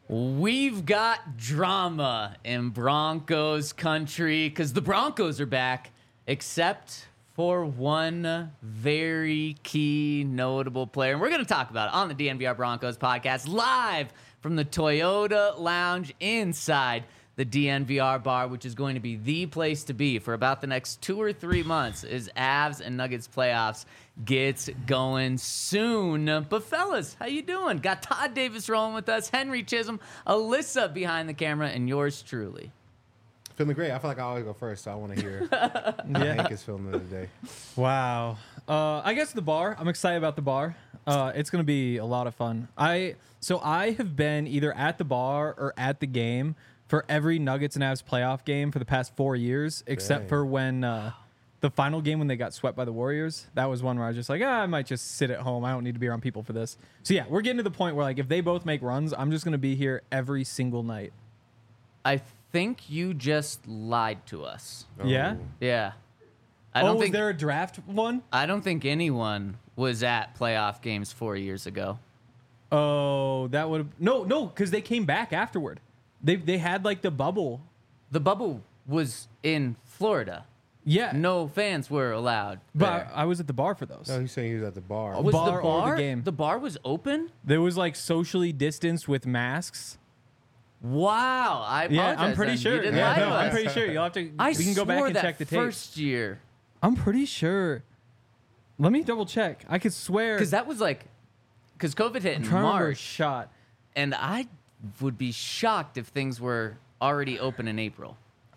We've got drama in Broncos country because the Broncos are back, except for one very key notable player. And we're going to talk about it on the DNVR Broncos podcast, live from the Toyota Lounge inside the DNVR bar, which is going to be the place to be for about the next 2 or 3 months as Avs and Nuggets playoffs gets going soon. But fellas, how you doing? Got Todd Davis rolling with us, Henry Chisholm, Alyssa behind the camera, and yours truly. Feeling great. I feel like I always go first, so I want to hear how Hank is feeling today. Wow. I guess the bar. I'm excited about the bar. It's going to be a lot of fun. I have been either at the bar or at the game for every Nuggets and Avs playoff game for the past 4 years, except for when the final game when they got swept by the Warriors. That was one where I was just like, I might just sit at home. I don't need to be around people for this. So yeah, we're getting to the point where like if they both make runs, I'm just going to be here every single night. I think you just lied to us. Oh. Yeah? Yeah. Was there a draft one? I don't think anyone was at playoff games 4 years ago. Oh, that would have... No, because they came back afterward. They had like the bubble. The bubble was in Florida. Yeah. No fans were allowed But there. I was at the bar for those. No, he's saying he was at the bar. Was bar the or bar the game? The bar was open? There was like socially distanced with masks. Wow. I apologize. Yeah, I'm pretty then. sure. You didn't Yeah, lie to no, I'm us. pretty sure. You'll have to. I We can go back swore and that check the tape. first year. I'm pretty sure. Let me double check. I could swear. Because that was like... Because COVID hit in Trying to remember a March. shot. And I would be shocked if things were already open in April.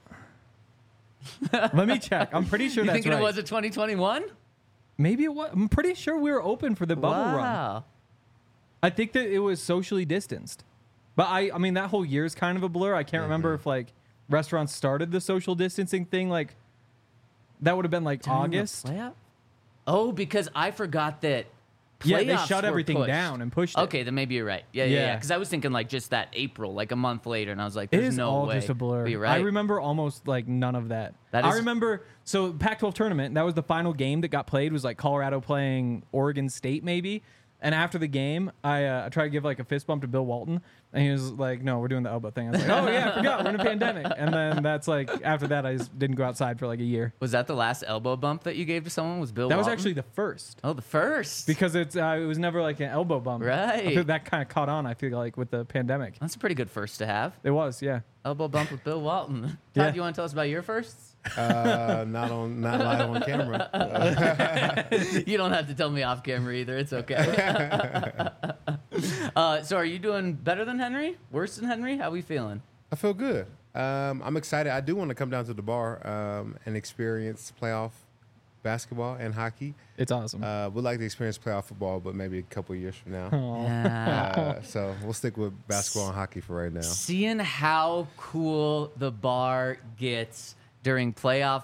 Let me check. I'm pretty sure You that's thinking right. it was a 2021? Maybe it was. I'm pretty sure we were open for the bubble run. Wow. I think that it was socially distanced. But I mean, that whole year is kind of a blur. I can't remember if like restaurants started the social distancing thing. Like that would have been like During the August. playoff? Oh, because I forgot that. Yeah, they playoffs shut were everything pushed. down and pushed it. Okay, then maybe you're right. Yeah. Yeah. Because I was thinking like just that April, like a month later, and I was like, It "There's is no all way." just a blur. But you're right. I remember almost like none of that. That I is- remember, so Pac-12 tournament, that was the final game that got played, was like Colorado playing Oregon State maybe. And after the game, I tried to give like a fist bump to Bill Walton, and he was like, "No, we're doing the elbow thing." I was like, "Oh yeah, I forgot, we're in a pandemic." And then that's like, after that, I just didn't go outside for like a year. Was that the last elbow bump that you gave to someone? Was Bill? That was Walton? actually the first. the first. Because it was never like an elbow bump. Right. I feel that kind of caught on, I feel like, with the pandemic. That's a pretty good first to have. It was, yeah. Elbow bump with Bill Walton. Todd, Yeah. you want to tell us about your firsts? Not live on camera. You don't have to tell me off camera either. It's okay. So are you doing better than Henry? Worse than Henry? How we feeling? I feel good. I'm excited. I do want to come down to the bar and experience playoff basketball and hockey. It's awesome. Would like to experience playoff football, but maybe a couple of years from now. Yeah. So we'll stick with basketball and hockey for right now. Seeing how cool the bar gets during playoff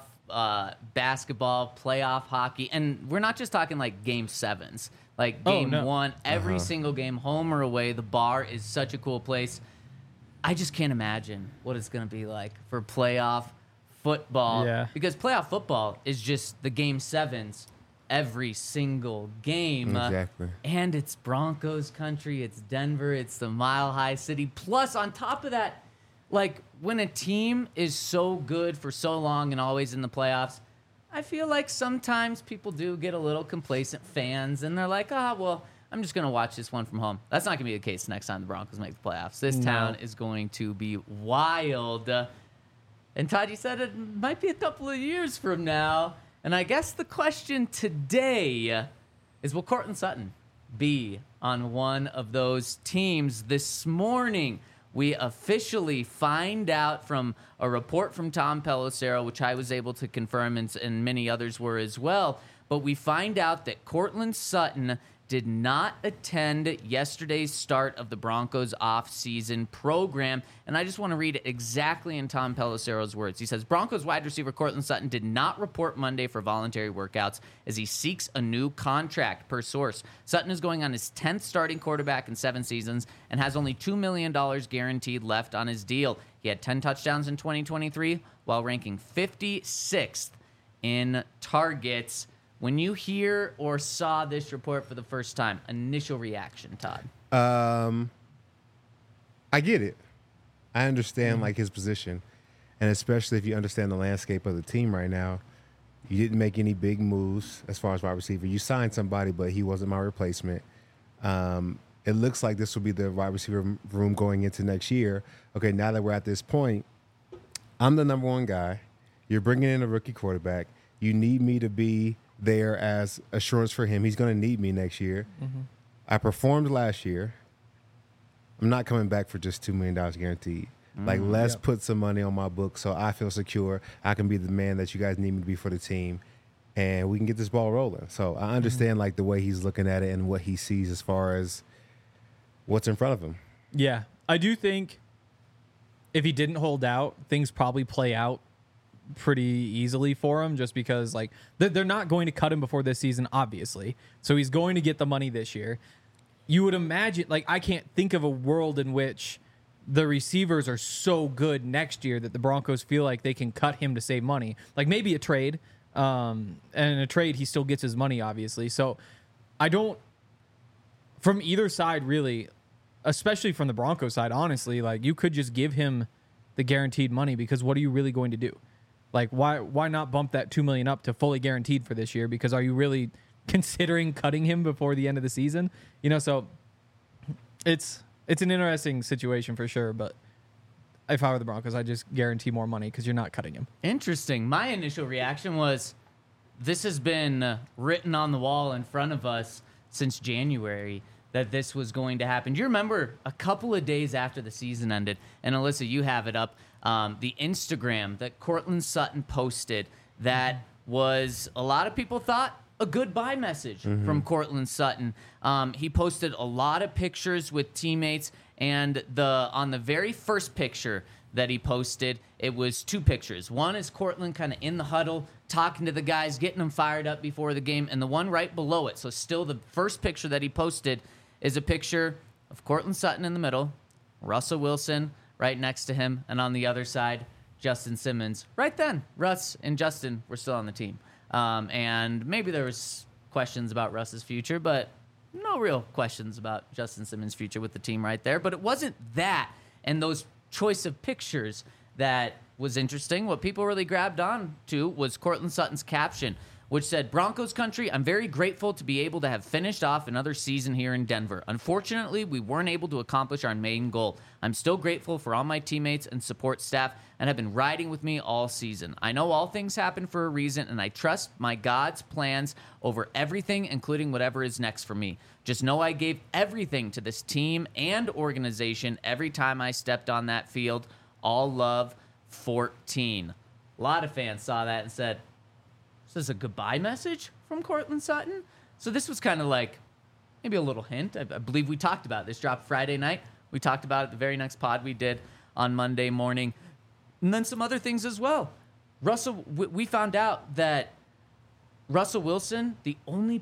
basketball, playoff hockey, and we're not just talking like game sevens, like game one, every single game, home or away, the bar is such a cool place. I just can't imagine what it's going to be like for playoff football. Yeah. Because playoff football is just the game sevens every single game. Exactly. And it's Broncos country, it's Denver, it's the Mile High City. Plus, on top of that, like when a team is so good for so long and always in the playoffs, I feel like sometimes people do get a little complacent, fans, and they're like, well, I'm just going to watch this one from home. That's not going to be the case next time the Broncos make the playoffs. This town is going to be wild. And Todd, you said it might be a couple of years from now. And I guess the question today is, will Courtland Sutton be on one of those teams? This morning, we officially find out from a report from Tom Pelissero, which I was able to confirm, and many others were as well. But we find out that Courtland Sutton did not attend yesterday's start of the Broncos off-season program. And I just want to read it exactly in Tom Pelissero's words. He says, Broncos wide receiver Courtland Sutton did not report Monday for voluntary workouts as he seeks a new contract, per source. Sutton is going on his 10th starting quarterback in 7 seasons and has only $2 million guaranteed left on his deal. He had 10 touchdowns in 2023 while ranking 56th in targets. When you hear or saw this report for the first time, initial reaction, Todd? I get it. I understand like his position, and especially if you understand the landscape of the team right now. You didn't make any big moves as far as wide receiver. You signed somebody, but he wasn't my replacement. It looks like this will be the wide receiver room going into next year. Okay, now that we're at this point, I'm the number one guy. You're bringing in a rookie quarterback. You need me to be there as assurance for him. He's going to need me next year. Mm-hmm. I performed last year. I'm not coming back for just $2 million guaranteed. Like, let's put some money on my book so I feel secure. I can be the man that you guys need me to be for the team, and we can get this ball rolling. So I understand, like, the way he's looking at it and what he sees as far as what's in front of him. Yeah. I do think if he didn't hold out, things probably play out pretty easily for him just because, like, they're not going to cut him before this season, obviously. So he's going to get the money this year. You would imagine, like, I can't think of a world in which the receivers are so good next year that the Broncos feel like they can cut him to save money. Like maybe a trade. And in a trade, he still gets his money, obviously. So I don't, from either side, really, especially from the Broncos side, honestly, like you could just give him the guaranteed money because what are you really going to do? Like why not bump that $2 million up to fully guaranteed for this year? Because are you really considering cutting him before the end of the season? You know, so it's an interesting situation for sure, but if I were the Broncos, I'd just guarantee more money because you're not cutting him. Interesting. My initial reaction was this has been written on the wall in front of us since January that this was going to happen. Do you remember a couple of days after the season ended, and Alyssa, you have it up, the Instagram that Courtland Sutton posted that was, a lot of people thought, a goodbye message from Courtland Sutton. He posted a lot of pictures with teammates, and on the very first picture that he posted, it was two pictures. One is Courtland kind of in the huddle, talking to the guys, getting them fired up before the game, and the one right below it, so still the first picture that he posted is a picture of Courtland Sutton in the middle, Russell Wilson right next to him, and on the other side, Justin Simmons. Right then, Russ and Justin were still on the team. And maybe there was questions about Russ's future, but no real questions about Justin Simmons' future with the team right there. But it wasn't that and those choice of pictures that was interesting. What people really grabbed on to was Courtland Sutton's caption, which said, "Broncos country, I'm very grateful to be able to have finished off another season here in Denver. Unfortunately, we weren't able to accomplish our main goal. I'm still grateful for all my teammates and support staff and have been riding with me all season. I know all things happen for a reason, and I trust my God's plans over everything, including whatever is next for me. Just know I gave everything to this team and organization every time I stepped on that field. All love, 14. A lot of fans saw that and said, "Is this a goodbye message from Courtland Sutton?" So this was kind of like maybe a little hint. I believe we talked about it. This dropped Friday night. We talked about it the very next pod we did on Monday morning. And then some other things as well. We found out that Russell Wilson, the only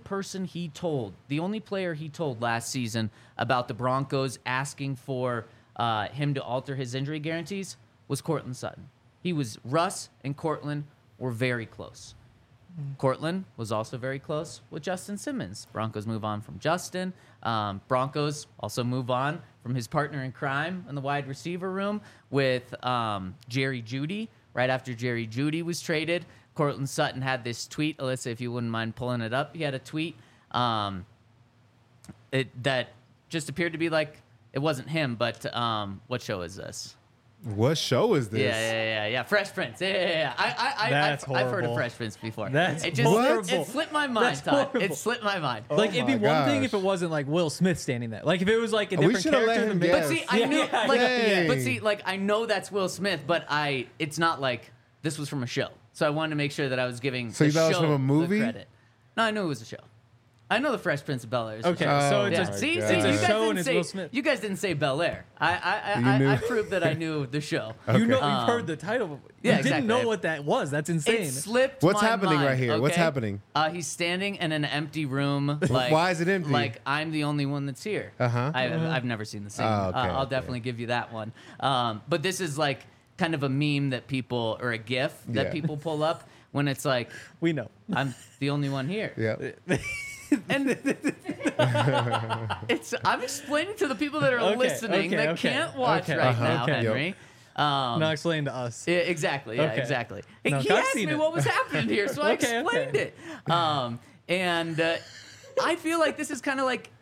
player he told last season about the Broncos asking for him to alter his injury guarantees was Courtland Sutton. Russ and Courtland were very close. Courtland was also very close with Justin Simmons. Broncos move on from Justin. Broncos also move on from his partner in crime in the wide receiver room with Jerry Jeudy. Right after Jerry Jeudy was traded, Courtland Sutton had this tweet. Alyssa, if you wouldn't mind pulling it up, he had a tweet that just appeared to be like, it wasn't him, but what show is this? What show is this? Yeah. Fresh Prince. Yeah. That's I've heard of horrible. Fresh Prince before. That's horrible. horrible. It slipped my mind, That's Todd. horrible. It slipped my mind. Oh Like, it'd be my one thing gosh. if it wasn't like Will Smith standing there. Like, if it was like a We different should've let character. him in the guess. But see, I knew, Yeah, like, dang. but see, like, I know that's Will Smith, but it's not like this was from a show. So I wanted to make sure that I was giving So the you thought it was show from a the movie? credit. No, I knew it was a show. I know the Fresh Prince of Bel-Air is a Okay, show. so Oh it's Yeah. my See, God. you It's a guys show didn't and it's say Will Smith. you guys didn't say Bel-Air. You I knew. proved that I knew the show. You know, Okay. you've heard the title. You Yeah, didn't exactly. know what that was. That's insane. It slipped What's my happening mind, right here? What's okay? happening? He's standing in an empty room. Like, Why is it empty? Like, I'm the only one that's here. Uh-huh. I've never seen the scene. Oh, okay, I'll okay. definitely give you that one. But this is like kind of a meme that people, or a GIF that Yeah. people pull up when it's like, We know. I'm the only one here. Yeah. And I'm explaining to the people that are Okay, listening okay, that okay, can't watch okay, right now, okay. Henry. Not explain to us. Yeah, exactly. Yeah, Okay. exactly. No, He I've asked seen me it. what was happening here, so I Okay, explained okay. it. And I feel like this is kind of like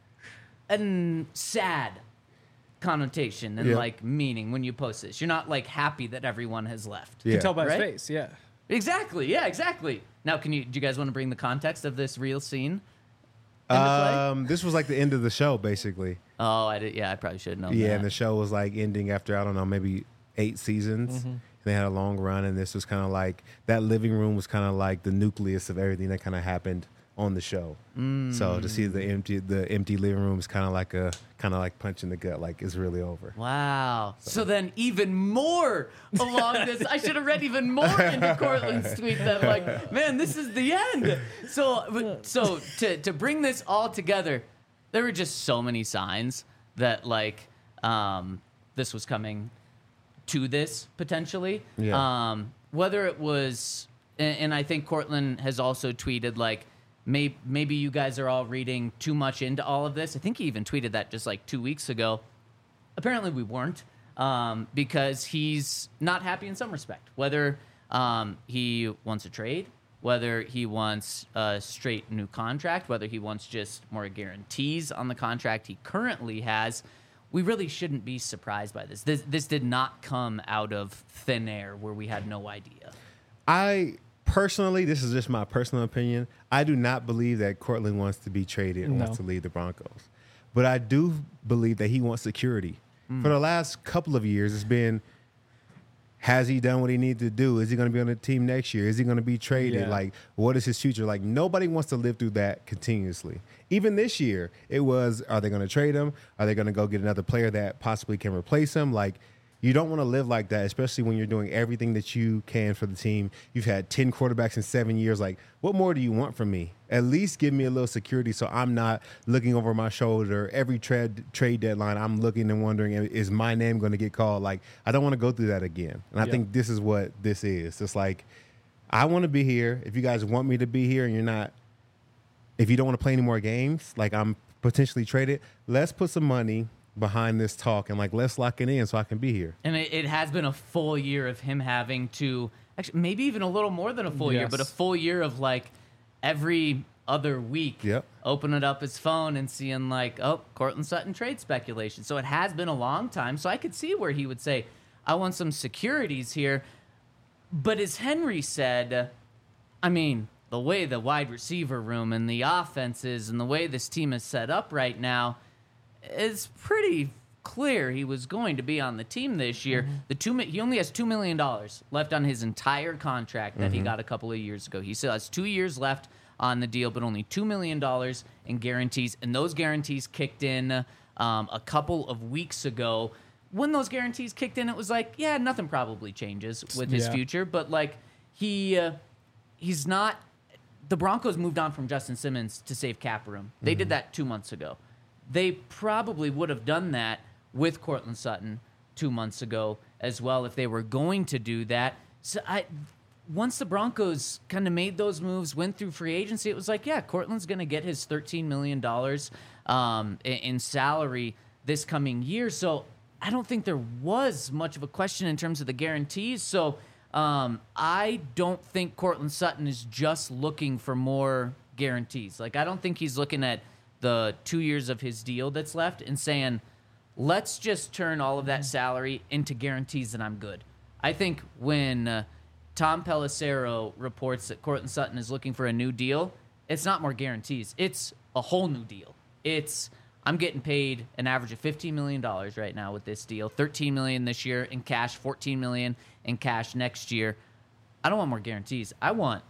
a sad connotation and Yeah. like meaning when you post this. You're not like happy that everyone has left. You Yeah. can tell by his Right? face. Yeah. Exactly. Yeah, exactly. Now, do you guys want to bring the context of this real scene into play? This was like the end of the show, basically. Oh, I did. Yeah, I probably should know. Yeah, and the show was like ending after, I don't know, maybe 8 seasons. Mm-hmm. And they had a long run, and this was kind of like that living room was kind of like the nucleus of everything that kind of happened on the show. So to see the empty living room is kind of like punch in the gut, like it's really over. Wow. So then even more along this, I should have read even more into Cortland's tweet that like, man, this is the end. So to bring this all together, there were just so many signs that like this was coming to this potentially. Yeah. Whether it was, and I think Cortland has also tweeted like, maybe you guys are all reading too much into all of this. I think he even tweeted that just like 2 weeks ago. Apparently we weren't, because he's not happy in some respect. Whether he wants a trade, whether he wants a straight new contract, whether he wants just more guarantees on the contract he currently has, we really shouldn't be surprised by this. This did not come out of thin air where we had no idea. I personally, this is just my personal opinion, I do not believe that Cortland wants to be traded and wants to leave the Broncos. But I do believe that he wants security. For the last couple of years, it's been, has he done what he needed to do? Is he going to be on the team next year? Is he going to be traded? Yeah. Like, what is his future? Like, nobody wants to live through that continuously. Even this year, it was, are they going to trade him? Are they going to go get another player that possibly can replace him? Like, you don't want to live like that, especially when you're doing everything that you can for the team. You've had 10 quarterbacks in 7 years. Like, what more do you want from me? At least give me a little security so I'm not looking over my shoulder. Every trade deadline, I'm looking and wondering, is my name going to get called? Like, I don't want to go through that again. And I think this is what this is. It's like, I want to be here. If you guys want me to be here and you're not, if you don't want to play any more games, like I'm potentially traded, let's put some money behind this talk and like let's lock it in so I can be here. And it has been a full year of him having to, actually maybe even a little more than a full year, Yes. but a full year of like every other week opening up his phone and seeing like, oh, Cortland Sutton trade speculation. So it has been a long time. So I could see where he would say, I want some securities here. But as Henry said, I mean, the way the wide receiver room and the offense is and the way this team is set up right now, it's pretty clear he was going to be on the team this year. He only has $2 million left on his entire contract that he got a couple of years ago. He still has 2 years left on the deal, but only $2 million in guarantees. And those guarantees kicked in a couple of weeks ago. When those guarantees kicked in, it was like, yeah, nothing probably changes with his future. But like he's not. The Broncos moved on from Justin Simmons to save cap room. They did that 2 months ago. They probably would have done that with Cortland Sutton 2 months ago as well if they were going to do that. So once the Broncos kind of made those moves, went through free agency, it was like, yeah, Cortland's going to get his $13 million in salary this coming year. So I don't think there was much of a question in terms of the guarantees. So I don't think Cortland Sutton is just looking for more guarantees. Like, I don't think he's looking at the 2 years of his deal that's left and saying, let's just turn all of that salary into guarantees and I'm good. I think when Tom Pelissero reports that Cortland Sutton is looking for a new deal, it's not more guarantees. It's a whole new deal. It's, I'm getting paid an average of $15 million right now with this deal, $13 million this year in cash, $14 million in cash next year. I don't want more guarantees. I want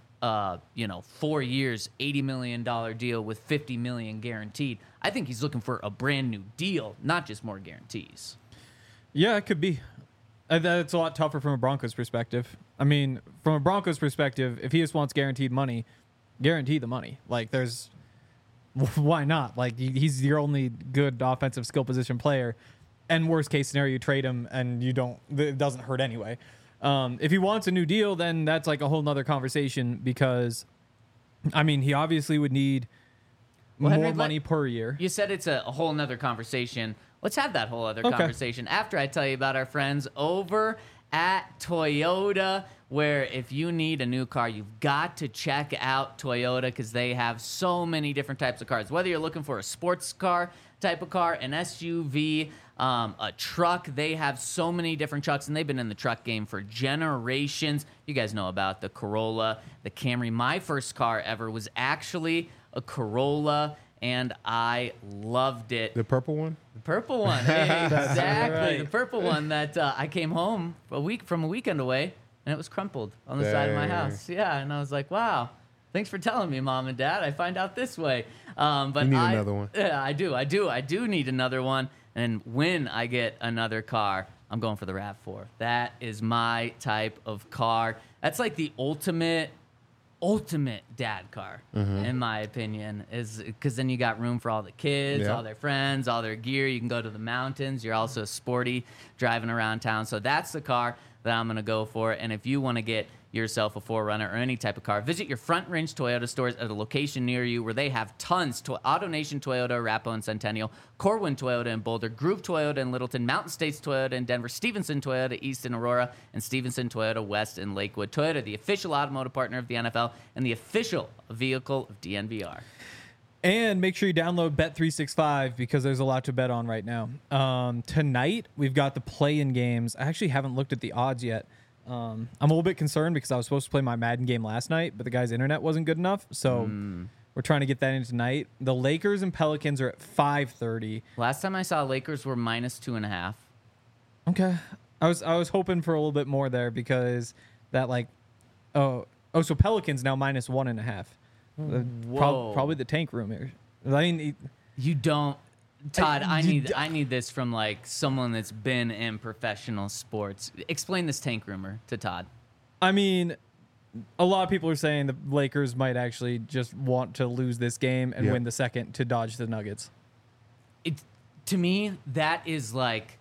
4 years, $80 million deal with $50 million guaranteed. I think he's looking for a brand new deal, not just more guarantees. Yeah, it could be. That's a lot tougher from a Broncos perspective. I mean, from a Broncos perspective, if he just wants guaranteed money, guarantee the money. Like, there's, why not? Like, he's your only good offensive skill position player. And worst case scenario, you trade him and it doesn't hurt anyway. If he wants a new deal, then that's like a whole nother conversation because, I mean, he obviously would need Well, more Henry, money per year. You said it's a whole nother conversation. Let's have that whole other Okay. conversation after I tell you about our friends over at Toyota, where if you need a new car, you've got to check out Toyota because they have so many different types of cars. Whether you're looking for a sports car type of car, an SUV, a truck, they have so many different trucks, and they've been in the truck game for generations. You guys know about the Corolla, the Camry. My first car ever was actually a Corolla, and I loved it. The purple one? The purple one, exactly. right. The purple one that I came home from a weekend away, and it was crumpled on the side of my Dang. house. Yeah, and I was like, wow. Thanks for telling me, Mom and Dad. I find out this way. But You need another one. Yeah, I do need another one. And when I get another car, I'm going for the RAV4. That is my type of car. That's like the ultimate dad car, in my opinion, is because then you got room for all the kids, Yeah. all their friends, all their gear. You can go to the mountains. You're also sporty driving around town. So that's the car that I'm going to go for. And if you want to get yourself a 4Runner or any type of car, visit your Front Range Toyota stores at a location near you where they have tons. AutoNation Toyota, Arapahoe and Centennial, Corwin Toyota in Boulder, Groove Toyota in Littleton, Mountain States Toyota in Denver, Stevenson Toyota East in Aurora, and Stevenson Toyota West in Lakewood. Toyota, the official automotive partner of the NFL and the official vehicle of DNVR. And make sure you download Bet365 because there's a lot to bet on right now. Tonight, we've got the play-in games. I actually haven't looked at the odds yet. I'm a little bit concerned because I was supposed to play my Madden game last night, but the guy's internet wasn't good enough. So we're trying to get that in tonight. The Lakers and Pelicans are at 5:30. Last time I saw Lakers were -2.5. Okay. I was hoping for a little bit more there because that so Pelicans now -1.5. Whoa. Probably the tank room here. I mean, You don't, Todd. I you need this from like someone that's been in professional sports. Explain this tank rumor to Todd. I mean, a lot of people are saying the Lakers might actually just want to lose this game and Yep. win the second to dodge the Nuggets. To me, that is like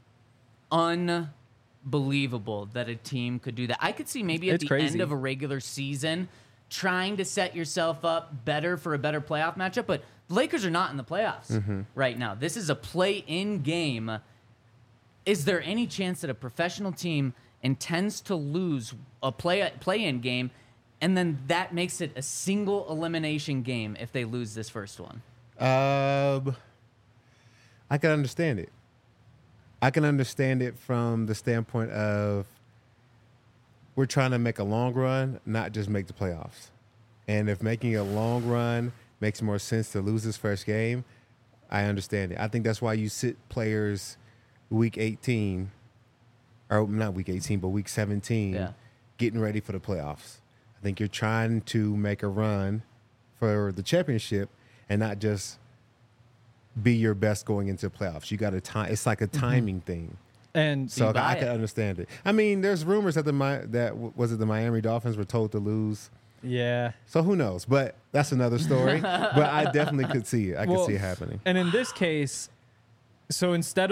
unbelievable that a team could do that. I could see maybe at It's the crazy. end of a regular season trying to set yourself up better for a better playoff matchup, but the Lakers are not in the playoffs right now. This is a play-in game. Is there any chance that a professional team intends to lose a play-in game, and then that makes it a single elimination game if they lose this first one? I can understand it. I can understand it from the standpoint of we're trying to make a long run, not just make the playoffs. And if making a long run makes more sense to lose this first game, I understand it. I think that's why you sit players week 18, or not week 18, but week 17, Yeah. getting ready for the playoffs. I think you're trying to make a run for the championship and not just be your best going into playoffs. You got to time. It's like a timing thing. And So buy I it. can understand it. I mean, there's rumors that the Miami Dolphins were told to lose. yeah. So who knows? But that's another story. But I definitely could see it. I could see it happening. And in this case, so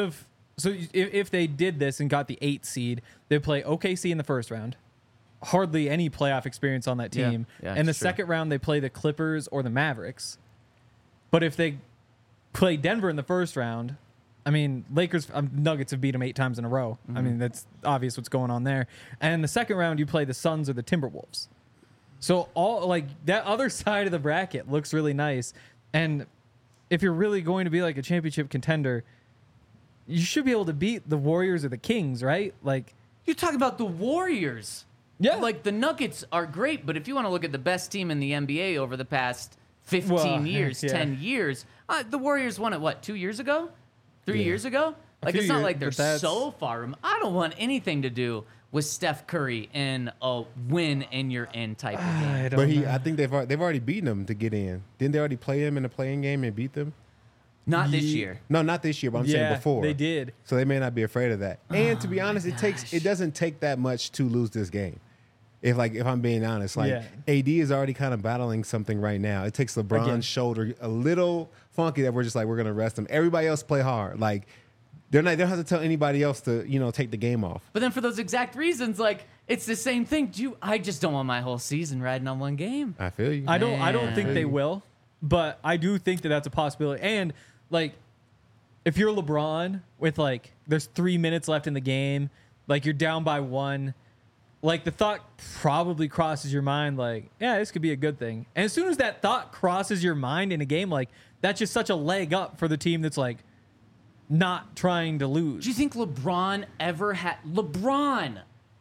if they did this and got the 8th seed, they'd play OKC in the first round. Hardly any playoff experience on that team. Yeah, and the it's true. second round, they play the Clippers or the Mavericks. But if they play Denver in the first round, I mean, Nuggets have beat them 8 times in a row. I mean, that's obvious what's going on there. And in the second round, you play the Suns or the Timberwolves. So all like that other side of the bracket looks really nice. And if you're really going to be like a championship contender, you should be able to beat the Warriors or the Kings, right? Like, You're talking about the Warriors. Yeah. Like, the Nuggets are great, but if you want to look at the best team in the NBA over the past 15 Well, years, yeah. 10 years, the Warriors won it, what, 2 years ago? 3 Yeah. years ago? Like, few it's not years, like they're but that's- so far. I don't want anything to do with Steph Curry in a win and you're in type of game. I don't But know. I think they've already beaten them to get in. Didn't they already play him in the playing game and beat them? Not this year. No, not this year, but I'm saying Yeah, before. they did. So they may not be afraid of that. And to be honest, it doesn't take that much to lose this game. If I'm being honest, Yeah. AD is already kind of battling something right now. It takes LeBron's Again. shoulder a little funky that we're just like we're gonna rest him. Everybody else play hard. Like they don't have to tell anybody else to take the game off. But then for those exact reasons, like, it's the same thing. I just don't want my whole season riding on one game. I feel you. I don't think they Man. will. but I do think that that's a possibility. And like, if you're LeBron with like, there's 3 minutes left in the game, like you're down by 1, like the thought probably crosses your mind, like, yeah, this could be a good thing. And as soon as that thought crosses your mind in a game, like that's just such a leg up for the team that's like not trying to lose. Do you think LeBron ever had LeBron?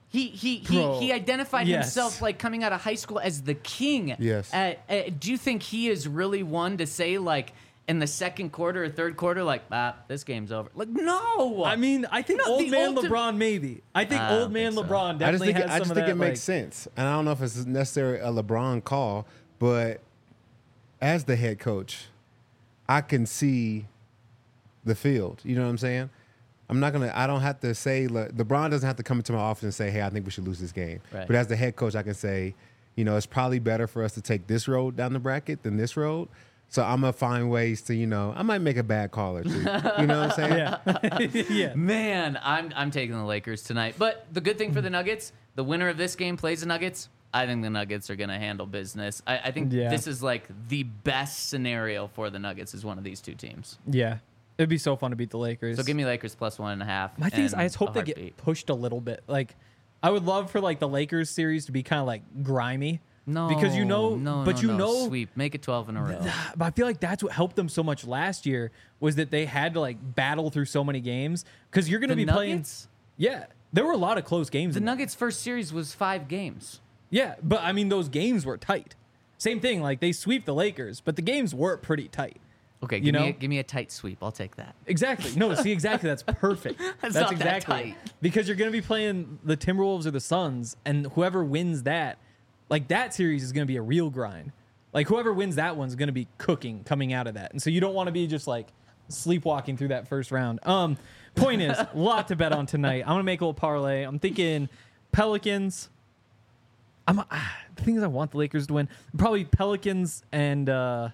He identified yes. himself like coming out of high school as the king. Yes. Do you think he is really one to say like in the second quarter or third quarter, like, this game's over? Like, no. I mean, I think No, old the man ulti- LeBron maybe. I think I old don't man think so. LeBron I just definitely think has some of that. it makes sense, and I don't know if it's necessarily a LeBron call, but as the head coach, I can see the field. You know what I'm saying? I don't have to say, LeBron doesn't have to come into my office and say, hey, I think we should lose this game. Right. But as the head coach, I can say, it's probably better for us to take this road down the bracket than this road. So I'm going to find ways to, I might make a bad call or two. You know what I'm saying? Yeah. Yeah. Man, I'm taking the Lakers tonight. But the good thing for the Nuggets, the winner of this game plays the Nuggets. I think the Nuggets are going to handle business. I think this is like the best scenario for the Nuggets is one of these two teams. Yeah. It'd be so fun to beat the Lakers. So give me Lakers plus 1.5. My thing is, I just hope they heartbeat. get pushed a little bit. Like, I would love for like the Lakers series to be kind of like grimy. No, because sweep. Make it 12 in a row. But I feel like that's what helped them so much last year was that they had to like battle through so many games because you're going to be Nuggets? playing. Yeah, there were a lot of close games. The Nuggets' first series was 5 games. Yeah, but I mean those games were tight. Same thing, like they sweep the Lakers, but the games were pretty tight. Okay, You know? give me a tight sweep. I'll take that. Exactly. No, see, exactly. That's perfect. That's not that exactly tight. because you're going to be playing the Timberwolves or the Suns, and whoever wins that, like that series is going to be a real grind. Like whoever wins that one's going to be cooking coming out of that, and so you don't want to be just like sleepwalking through that first round. Point is, a lot to bet on tonight. I'm going to make a little parlay. I'm thinking Pelicans. The thing is, I want the Lakers to win. Probably Pelicans and.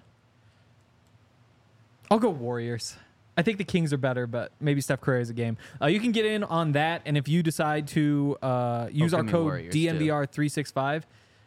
I'll go Warriors. I think the Kings are better, but maybe Steph Curry is a game. You can get in on that, and if you decide to use our give me code Warriors, DNVR365,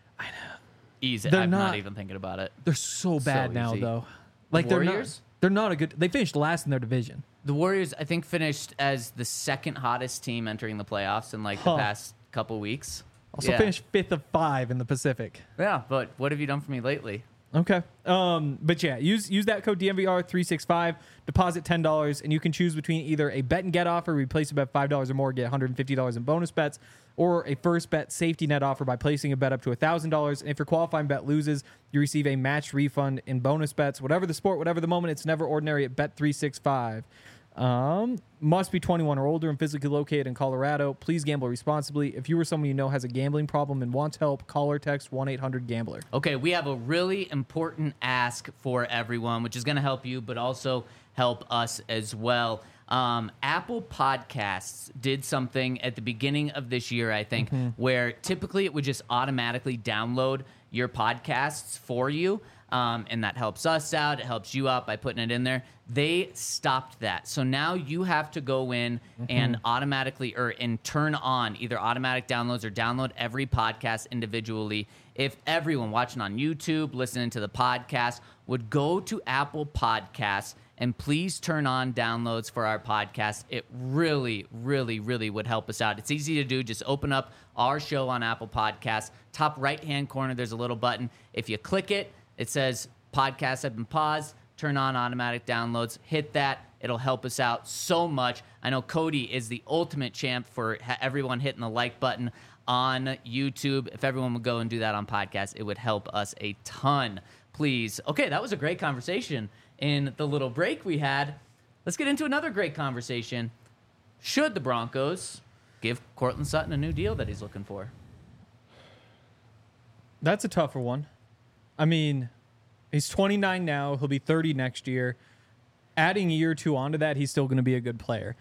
Easy. They're I'm not not- even thinking about it. they're so bad now, easy. though. Like Warriors? they're not a good. They finished last in their division. The Warriors, I think, finished as the second hottest team entering the playoffs in like the past couple weeks. Also finished 5th of 5 in the Pacific. Yeah, but what have you done for me lately? Okay. But yeah, use that code DNVR365, deposit $10, and you can choose between either a bet and get offer, where you place a bet $5 or more, get $150 in bonus bets, or a first bet safety net offer by placing a bet up to $1,000. And if your qualifying bet loses, you receive a matched refund in bonus bets. Whatever the sport, whatever the moment, it's never ordinary at Bet365. Must be 21 or older and physically located in Colorado. Please gamble responsibly. If you or someone you know has a gambling problem and wants help, call or text 1-800-GAMBLER. Okay, we have a really important ask for everyone, which is going to help you, but also help us as well. Apple Podcasts did something at the beginning of this year, I think, where typically it would just automatically download your podcasts for you. And that helps us out. It helps you out by putting it in there. They stopped that. So now you have to go in and automatically and turn on either automatic downloads or download every podcast individually. If everyone watching on YouTube, listening to the podcast, would go to Apple Podcasts and please turn on downloads for our podcast, it really, really, really would help us out. It's easy to do. Just open up our show on Apple Podcasts. Top right-hand corner, there's a little button. If you click it, it says podcasts have been paused. Turn on automatic downloads. Hit that. It'll help us out so much. I know Cody is the ultimate champ for everyone hitting the like button on YouTube. If everyone would go and do that on podcast, it would help us a ton. Please. Okay, that was a great conversation in the little break we had. Let's get into another great conversation. Should the Broncos give Courtland Sutton a new deal that he's looking for? That's a tougher one. I mean, he's 29 now. He'll be 30 next year. Adding a year or two onto that, he's still going to be a good player.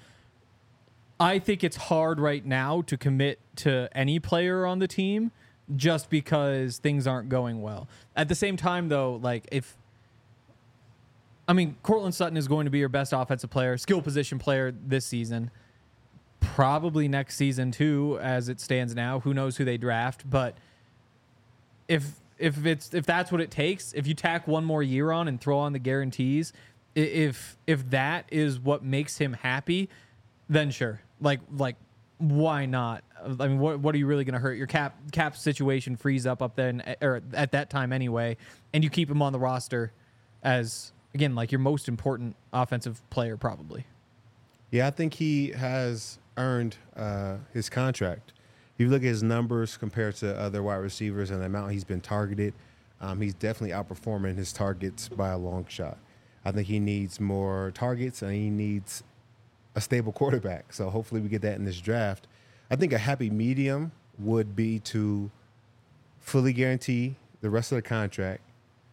I think it's hard right now to commit to any player on the team just because things aren't going well. At the same time, though, Courtland Sutton is going to be your best offensive player, skill position player this season. Probably next season, too, as it stands now. Who knows who they draft, but if if that's what it takes, if you tack one more year on and throw on the guarantees, if that is what makes him happy, then sure. Like why not? I mean, what are you really going to hurt? Your cap situation frees up then, or at that time anyway, and you keep him on the roster as, again, like your most important offensive player probably. Yeah, I think he has earned his contract. If you look at his numbers compared to other wide receivers and the amount he's been targeted, he's definitely outperforming his targets by a long shot. I think he needs more targets and he needs a stable quarterback. So hopefully we get that in this draft. I think a happy medium would be to fully guarantee the rest of the contract,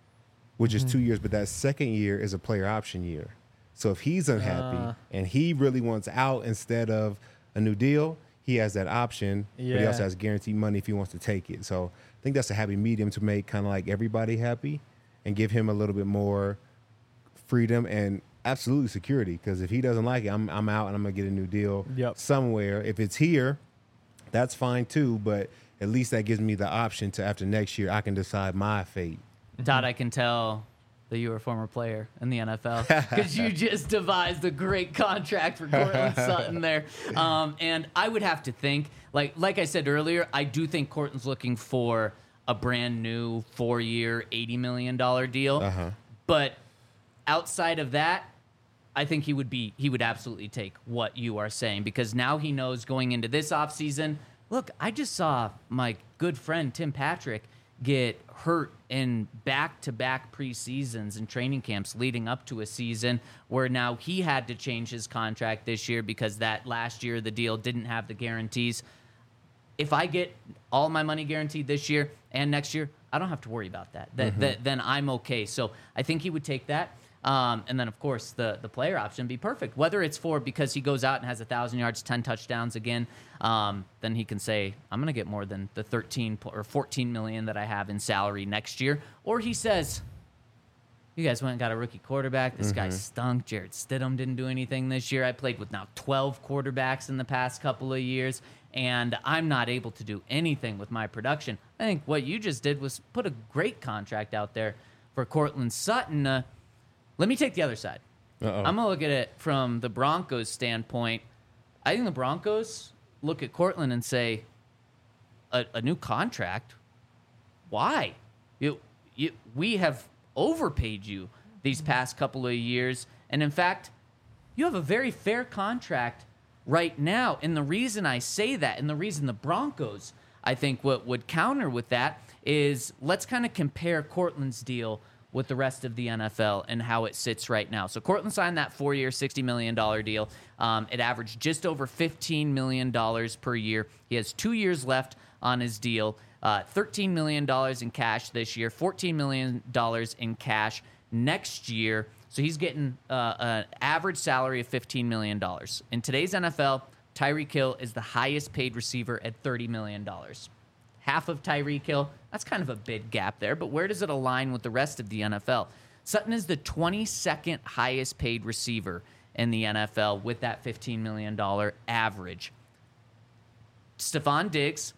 which is 2 years, but that second year is a player option year. So if he's unhappy and he really wants out instead of a new deal, he has that option, but he also has guaranteed money if he wants to take it. So I think that's a happy medium to make kind of like everybody happy and give him a little bit more freedom and absolutely security, because if he doesn't like it, I'm out and I'm going to get a new deal somewhere. If it's here, that's fine too, but at least that gives me the option to, after next year, I can decide my fate. Todd, I can tell that you were a former player in the NFL because you just devised a great contract for Courtland Sutton there. And I would have to think, like I said earlier, I do think Courtland's looking for a brand new 4-year, $80 million deal. But outside of that, I think he would absolutely take what you are saying, because now he knows going into this offseason, look, I just saw my good friend Tim Patrick get hurt in back-to-back preseasons and training camps leading up to a season where now he had to change his contract this year because that last year the deal didn't have the guarantees. If I get all my money guaranteed this year and next year, I don't have to worry about that. Then I'm okay. So I think he would take that. And then, of course, the player option would be perfect. Whether it's for because he goes out and has 1,000 yards, 10 touchdowns again, then he can say, I'm going to get more than the 13 or 14 million that I have in salary next year. Or he says, you guys went and got a rookie quarterback. This guy stunk. Jarrett Stidham didn't do anything this year. I played with now 12 quarterbacks in the past couple of years, and I'm not able to do anything with my production. I think what you just did was put a great contract out there for Courtland Sutton. Let me take the other side. I'm going to look at it from the Broncos' standpoint. I think the Broncos look at Courtland and say, a new contract? Why? We have overpaid you these past couple of years. And in fact, you have a very fair contract right now. And the reason I say that, and the reason the Broncos, I think, what would counter with that is let's kind of compare Courtland's deal with the rest of the NFL and how it sits right now. So Courtland signed that 4-year, $60 million deal. It averaged just over $15 million per year. He has 2 years left on his deal. $13 million in cash this year, $14 million in cash next year. So he's getting an average salary of $15 million. In today's NFL, Tyreek Hill is the highest paid receiver at $30 million. Half of Tyreek Hill, that's kind of a big gap there, but where does it align with the rest of the NFL? Sutton is the 22nd highest paid receiver in the NFL with that $15 million average. Stephon Diggs,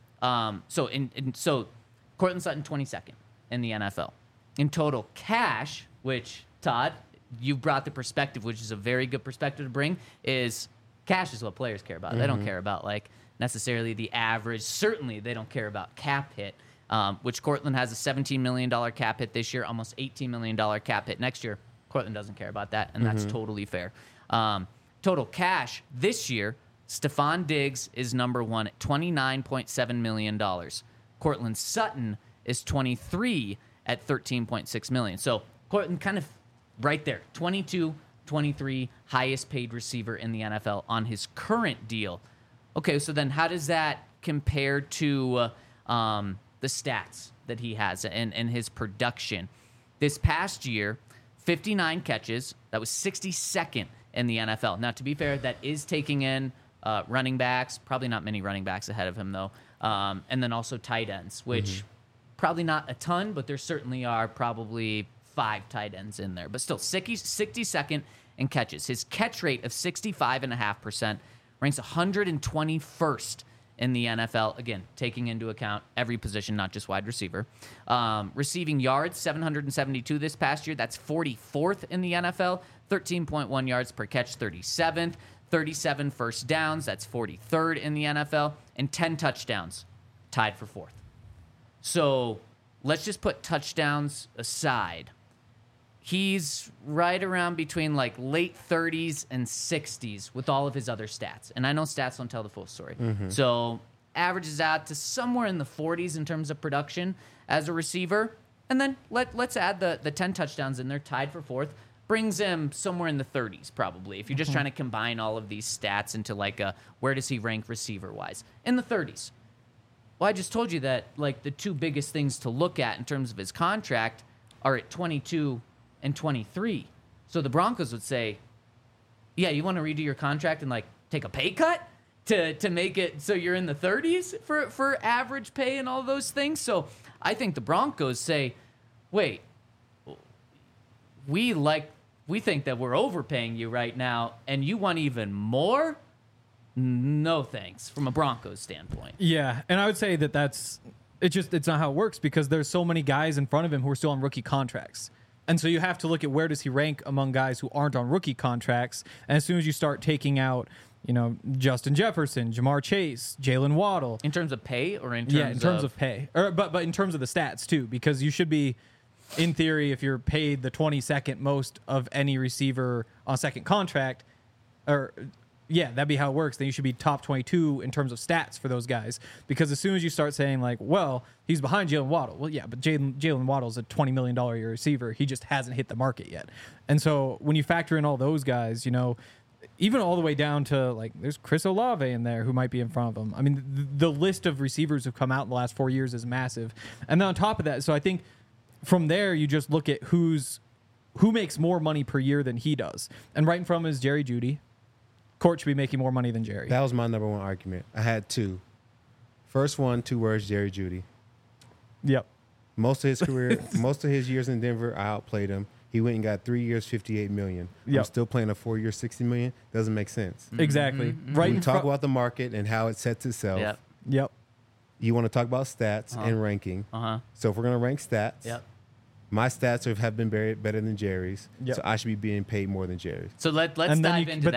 so Courtland Sutton 22nd in the NFL. In total cash, which, Todd, you brought the perspective, which is a very good perspective to bring, is cash is what players care about. They don't care about, necessarily the average. Certainly, they don't care about cap hit, which Courtland has a $17 million cap hit this year, almost $18 million cap hit next year. Courtland doesn't care about that, and that's totally fair. Total cash this year, Stephon Diggs is number one at $29.7 million. Courtland Sutton is 23 at $13.6 million. So Courtland kind of right there, 22, 23, highest paid receiver in the NFL on his current deal. Okay, so then how does that compare to the stats that he has and his production? This past year, 59 catches. That was 62nd in the NFL. Now, to be fair, that is taking in running backs. Probably not many running backs ahead of him, though. And then also tight ends, which probably not a ton, but there certainly are probably 5 tight ends in there. But still, 62nd in catches. His catch rate of 65.5% ranks 121st in the NFL. Again, taking into account every position, not just wide receiver. Receiving yards, 772 this past year. That's 44th in the NFL. 13.1 yards per catch, 37th. 37 first downs, that's 43rd in the NFL. And 10 touchdowns, tied for 4th. So let's just put touchdowns aside. He's right around between like late 30s and 60s with all of his other stats. And I know stats don't tell the full story. So averages out to somewhere in the 40s in terms of production as a receiver. And then let's add the 10 touchdowns in there, tied for 4th. Brings him somewhere in the 30s probably. If you're just trying to combine all of these stats into like a where does he rank receiver-wise? In the 30s. Well, I just told you that like the two biggest things to look at in terms of his contract are at 22 and 23. So the Broncos would say, yeah, you want to redo your contract and like take a pay cut to make it so you're in the 30s for average pay and all those things. So I think the Broncos say, wait, we think that we're overpaying you right now and you want even more? No thanks, from a Broncos standpoint. Yeah, and I would say it's not how it works because there's so many guys in front of him who are still on rookie contracts. And so you have to look at where does he rank among guys who aren't on rookie contracts. And as soon as you start taking out, Justin Jefferson, Jamar Chase, Jalen Waddle. In terms of pay or in terms of pay. But in terms of the stats too, because you should be, in theory, if you're paid the 22nd most of any receiver on second contract, that'd be how it works. Then you should be top 22 in terms of stats for those guys. Because as soon as you start saying like, well, he's behind Jalen Waddle. Well, yeah, but Jalen Waddle's a $20 million a year receiver. He just hasn't hit the market yet. And so when you factor in all those guys, even all the way down to like, there's Chris Olave in there who might be in front of him. I mean, the list of receivers who've come out in the last 4 years is massive. And then on top of that, so I think from there, you just look at who makes more money per year than he does. And right in front of him is Jerry Jeudy. Court should be making more money than Jerry. That was my number one argument. I had two. First one, 2 words, Jerry Jeudy. Yep. Most of his career, most of his years in Denver, I outplayed him. He went and got 3 years, $58 million. Yep. I'm still playing a 4-year, $60 million. Doesn't make sense. Exactly. Right. We talk about the market and how it sets itself. Yep. You want to talk about stats and ranking. So if we're going to rank stats, my stats have been better than Jerry's. So I should be being paid more than Jerry's. So let's dive into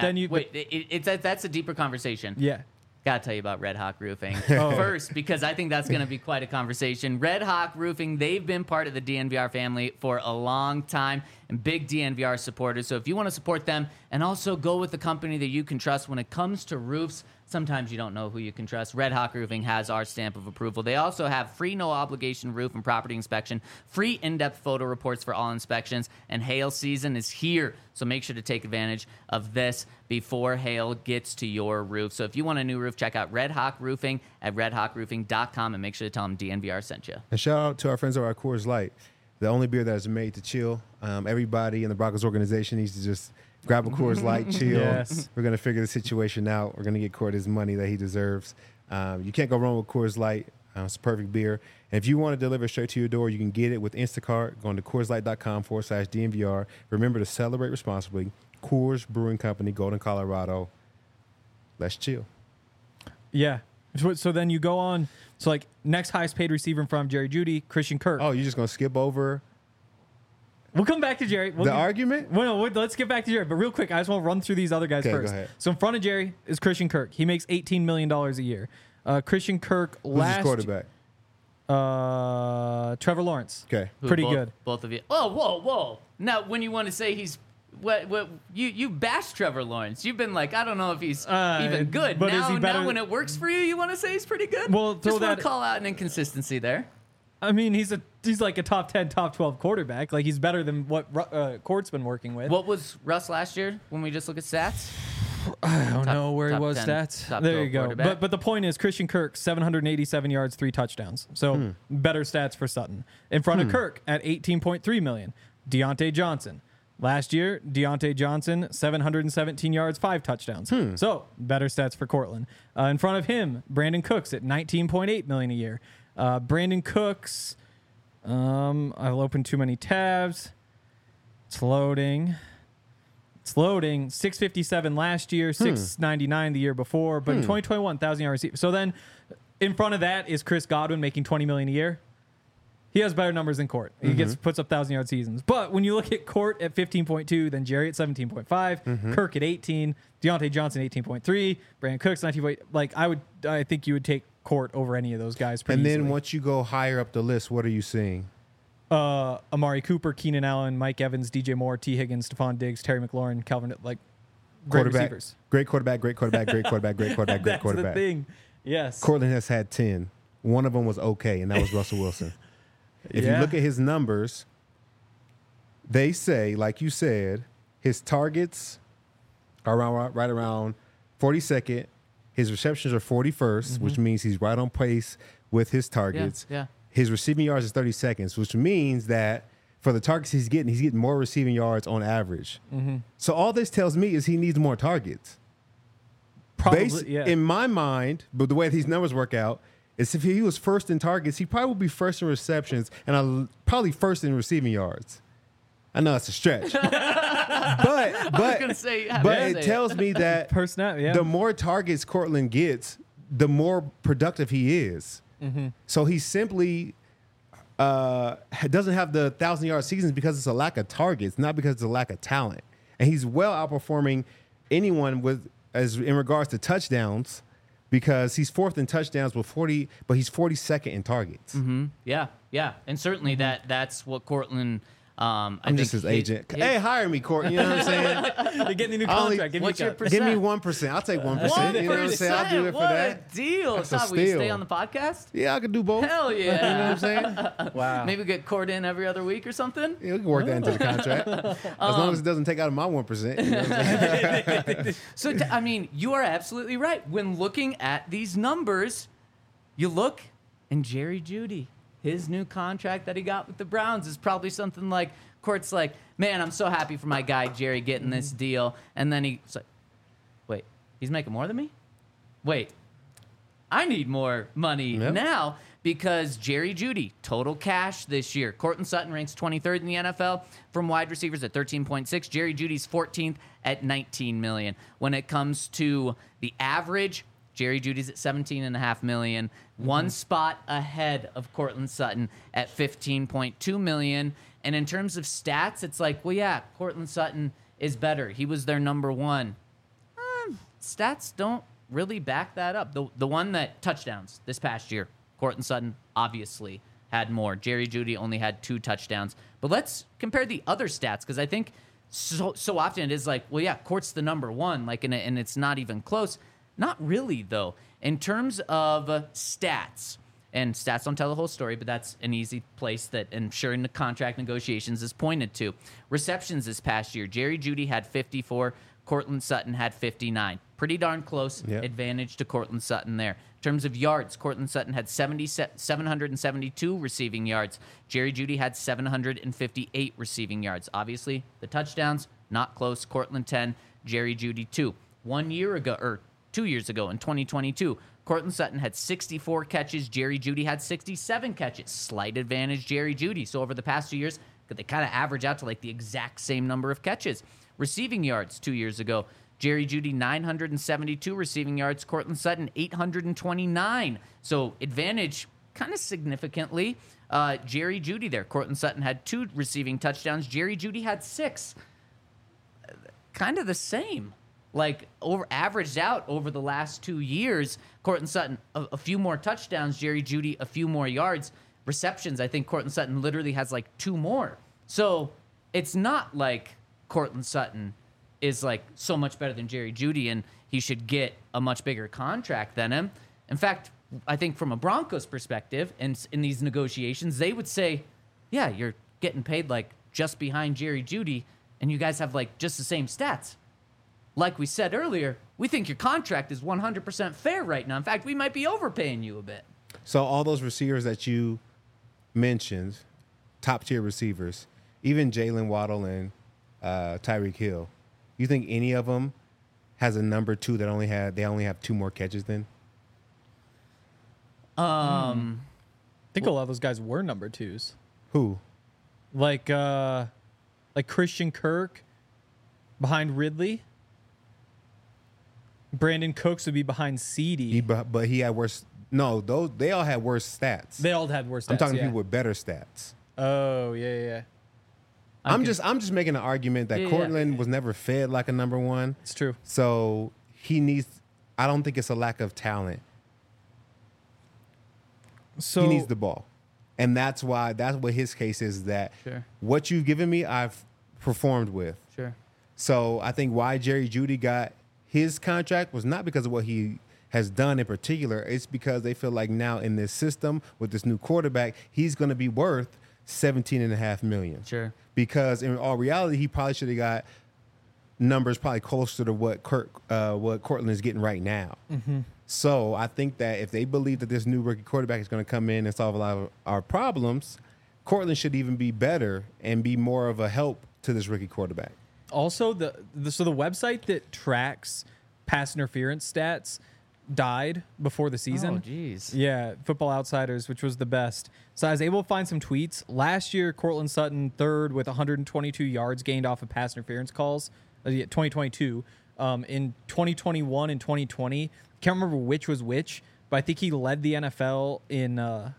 that. That's a deeper conversation. Yeah. Gotta tell you about Red Hawk Roofing first, because I think that's going to be quite a conversation. Red Hawk Roofing, they've been part of the DNVR family for a long time and big DNVR supporters. So if you want to support them and also go with the company that you can trust when it comes to roofs, sometimes you don't know who you can trust. Red Hawk Roofing has our stamp of approval. They also have free no-obligation roof and property inspection, free in-depth photo reports for all inspections, and hail season is here. So make sure to take advantage of this before hail gets to your roof. So if you want a new roof, check out Red Hawk Roofing at redhawkroofing.com and make sure to tell them DNVR sent you. And shout out to our friends over at Coors Light, the only beer that is made to chill. Everybody in the Broncos organization needs to just grab a Coors Light, chill. Yes. We're going to figure the situation out. We're going to get Court his money that he deserves. You can't go wrong with Coors Light. It's a perfect beer. And if you want to deliver straight to your door, you can get it with Instacart. Going to CoorsLight.com/DNVR. Remember to celebrate responsibly. Coors Brewing Company, Golden, Colorado. Let's chill. Yeah. So then you go on. So like next highest paid receiver in front of Jerry Jeudy, Christian Kirk. Oh, you're just going to skip over We'll come back to Jerry. argument? Well, no, let's get back to Jerry. But real quick, I just want to run through these other guys first. Go ahead. So in front of Jerry is Christian Kirk. He makes $18 million a year. Christian Kirk Who's his quarterback? Trevor Lawrence. Okay. Pretty good. Both of you. Oh, whoa. Now, when you want to say he's what you bashed Trevor Lawrence. You've been like, I don't know if he's even good. But now, is he better? Now when it works for you want to say he's pretty good? Well, just want to call out an inconsistency there. I mean, he's like a top 10, top 12 quarterback. Like, he's better than what Court's been working with. What was Russ last year when we just look at stats? I don't know where he was stats. There you go. But the point is, Christian Kirk, 787 yards, 3 touchdowns. So better stats for Sutton. In front of Kirk at $18.3 million, Deontay Johnson. Last year, Deontay Johnson, 717 yards, 5 touchdowns. So better stats for Cortland. In front of him, Brandon Cooks at $19.8 million a year. Brandon Cooks, I've opened too many tabs. It's loading. It's loading. 657 last year, 699 the year before, but in 2021, 1,000-yard receiver. So then, in front of that is Chris Godwin making $20 million a year. He has better numbers than Court. He puts up 1,000-yard seasons. But when you look at Court at 15.2, then Jerry at 17.5, Kirk at 18, Deontay Johnson 18.3, Brandon Cooks 19. Like I think you would take Court over any of those guys. Pretty And then easily. once you go higher up the list, what are you seeing? Amari Cooper, Keenan Allen, Mike Evans, DJ Moore, T. Higgins, Stephon Diggs, Terry McLaurin, Calvin, like great receivers. Great quarterback, great quarterback, great quarterback, great quarterback, great That's quarterback. the thing. Yes. Cortland has had 10. One of them was okay, and that was Russell Wilson. If you look at his numbers, they say, like you said, his targets are right around 42nd. His receptions are 41st, which means he's right on pace with his targets. Yeah. His receiving yards is 30 seconds, which means that for the targets he's getting more receiving yards on average. So all this tells me is he needs more targets. Probably, In my mind, but the way these numbers work out, is if he was first in targets, he probably would be first in receptions and probably first in receiving yards. I know it's a stretch, but I was gonna say, it tells me that the more targets Cortland gets, the more productive he is. So he simply doesn't have the 1,000-yard seasons because it's a lack of targets, not because it's a lack of talent. And he's well outperforming anyone in regards to touchdowns, because he's fourth in touchdowns with 40, but he's 42nd in targets. Yeah, and certainly that's what Cortland. I'm just his agent. Hey, hire me, Court. You know what I'm saying? You're getting a new contract. What's your Give me 1%. I'll take 1%. You know what I'm saying? I'll do it for that. What a deal. That's a Stop, will you steal. stay on the podcast? Yeah, I could do both. Hell yeah. You know what I'm saying? Wow. Maybe get Court in every other week or something. Yeah, we can work that into the contract. As long as it doesn't take out of my 1%. You know what I'm saying? So, I mean, you are absolutely right. When looking at these numbers, you look, and Jerry Jeudy, his new contract that he got with the Browns is probably something like, Court's like, man, I'm so happy for my guy Jerry getting this deal. And then he's like, wait, he's making more than me? Wait, I need more money now, because Jerry Jeudy, total cash this year. Courtland Sutton ranks 23rd in the NFL from wide receivers at 13.6. Jerry Jeudy's 14th at 19 million. When it comes to the average, Jerry Jeudy's at 17.5 million, one spot ahead of Courtland Sutton at 15.2 million. And in terms of stats, it's like, well, yeah, Courtland Sutton is better. He was their number one. Stats don't really back that up. The one that touchdowns this past year, Courtland Sutton obviously had more. Jerry Jeudy only had 2 touchdowns. But let's compare the other stats, because I think so often it is like, well, yeah, Court's the number one, like, and it's not even close. Not really, though. In terms of stats, and stats don't tell the whole story, but that's an easy place that I'm sure in the contract negotiations is pointed to. Receptions this past year, Jerry Jeudy had 54, Courtland Sutton had 59. Pretty darn close advantage to Courtland Sutton there. In terms of yards, Courtland Sutton had 772 receiving yards. Jerry Jeudy had 758 receiving yards. Obviously, the touchdowns, not close. Courtland 10, Jerry Jeudy 2. 1 year ago, or 2 years ago in 2022, Courtland Sutton had 64 catches. Jerry Jeudy had 67 catches. Slight advantage, Jerry Jeudy. So over the past 2 years, they kind of average out to like the exact same number of catches. Receiving yards 2 years ago, Jerry Jeudy 972 receiving yards. Courtland Sutton 829. So advantage kind of significantly. Jerry Jeudy there. Courtland Sutton had 2 receiving touchdowns. Jerry Jeudy had 6. Kind of the same. Like, averaged out over the last 2 years, Courtland Sutton, a few more touchdowns, Jerry Jeudy, a few more yards. Receptions, I think Courtland Sutton literally has like 2 more. So it's not like Courtland Sutton is like so much better than Jerry Jeudy and he should get a much bigger contract than him. In fact, I think from a Broncos perspective, and in these negotiations, they would say, yeah, you're getting paid like just behind Jerry Jeudy, and you guys have like just the same stats. Like we said earlier, we think your contract is 100% fair right now. In fact, we might be overpaying you a bit. So all those receivers that you mentioned, top-tier receivers, even Jalen Waddle and Tyreek Hill, you think any of them has a number 2 that they only have 2 more catches than? I think a lot of those guys were number 2s. Who? Like Christian Kirk. behind Ridley. Brandon Cooks would be behind CD. But he had worse. No, they all had worse stats. They all had worse stats. I'm talking yeah. people with better stats. Oh, yeah. I'm just making an argument that Yeah, Cortland was never fed like a number one. It's true. So he needs. I don't think it's a lack of talent. So He needs the ball, and that's what his case is. That Sure. what you've given me, I've performed with. Sure. So I think why Jerry Jeudy got his contract was not because of what he has done in particular. It's because they feel like now in this system with this new quarterback, he's going to be worth $17.5 million. Sure. Because in all reality, he probably should have got numbers probably closer to what Cortland is getting right now. Mm-hmm. So I think that if they believe that this new rookie quarterback is going to come in and solve a lot of our problems, Cortland should even be better and be more of a help to this rookie quarterback. also the website that tracks pass interference stats died before the season. Oh, jeez. Yeah, Football Outsiders, which was the best. So I was able to find some tweets. Last year, Cortland Sutton third with 122 yards gained off of pass interference calls. 2022. In 2021 and 2020, can't remember which was which, but I think he led the NFL in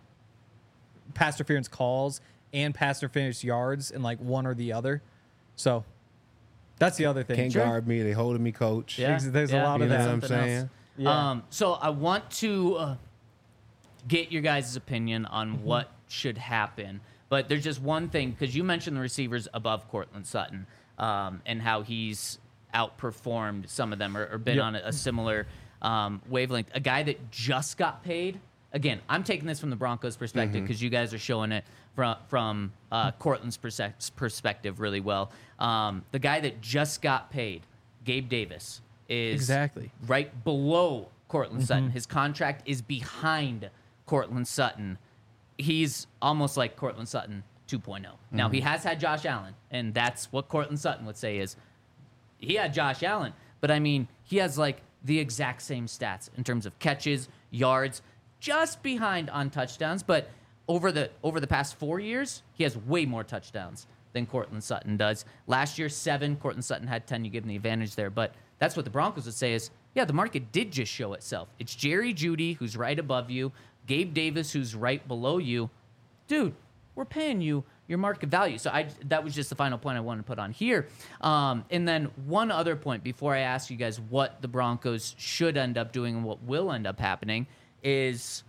pass interference calls and pass interference yards in like one or the other. So that's the other thing. Can't Sure. guard me. They holding me, coach. Yeah. There's a lot You of know that. what I'm Something else. saying? Yeah. So I want to get your guys' opinion on what should happen. But there's just one thing, because you mentioned the receivers above Cortland Sutton and how he's outperformed some of them or been Yep. on a similar wavelength. A guy that just got paid. Again, I'm taking this from the Broncos' perspective because you guys are showing it from Cortland's perspective really well. The guy that just got paid, Gabe Davis, is Exactly. right below Cortland Sutton. His contract is behind Cortland Sutton. He's almost like Cortland Sutton 2.0. Now, he has had Josh Allen, and that's what Cortland Sutton would say is he had Josh Allen. But, I mean, he has, like, the exact same stats in terms of catches, yards, just behind on touchdowns. But over the past 4 years, he has way more touchdowns than Cortland Sutton does. Last year, 7. Cortland Sutton had 10. You give him the advantage there. But that's what the Broncos would say is, yeah, the market did just show itself. It's Jerry Jeudy, who's right above you, Gabe Davis, who's right below you. Dude, we're paying you your market value. So that was just the final point I wanted to put on here. And then one other point before I ask you guys what the Broncos should end up doing and what will end up happening is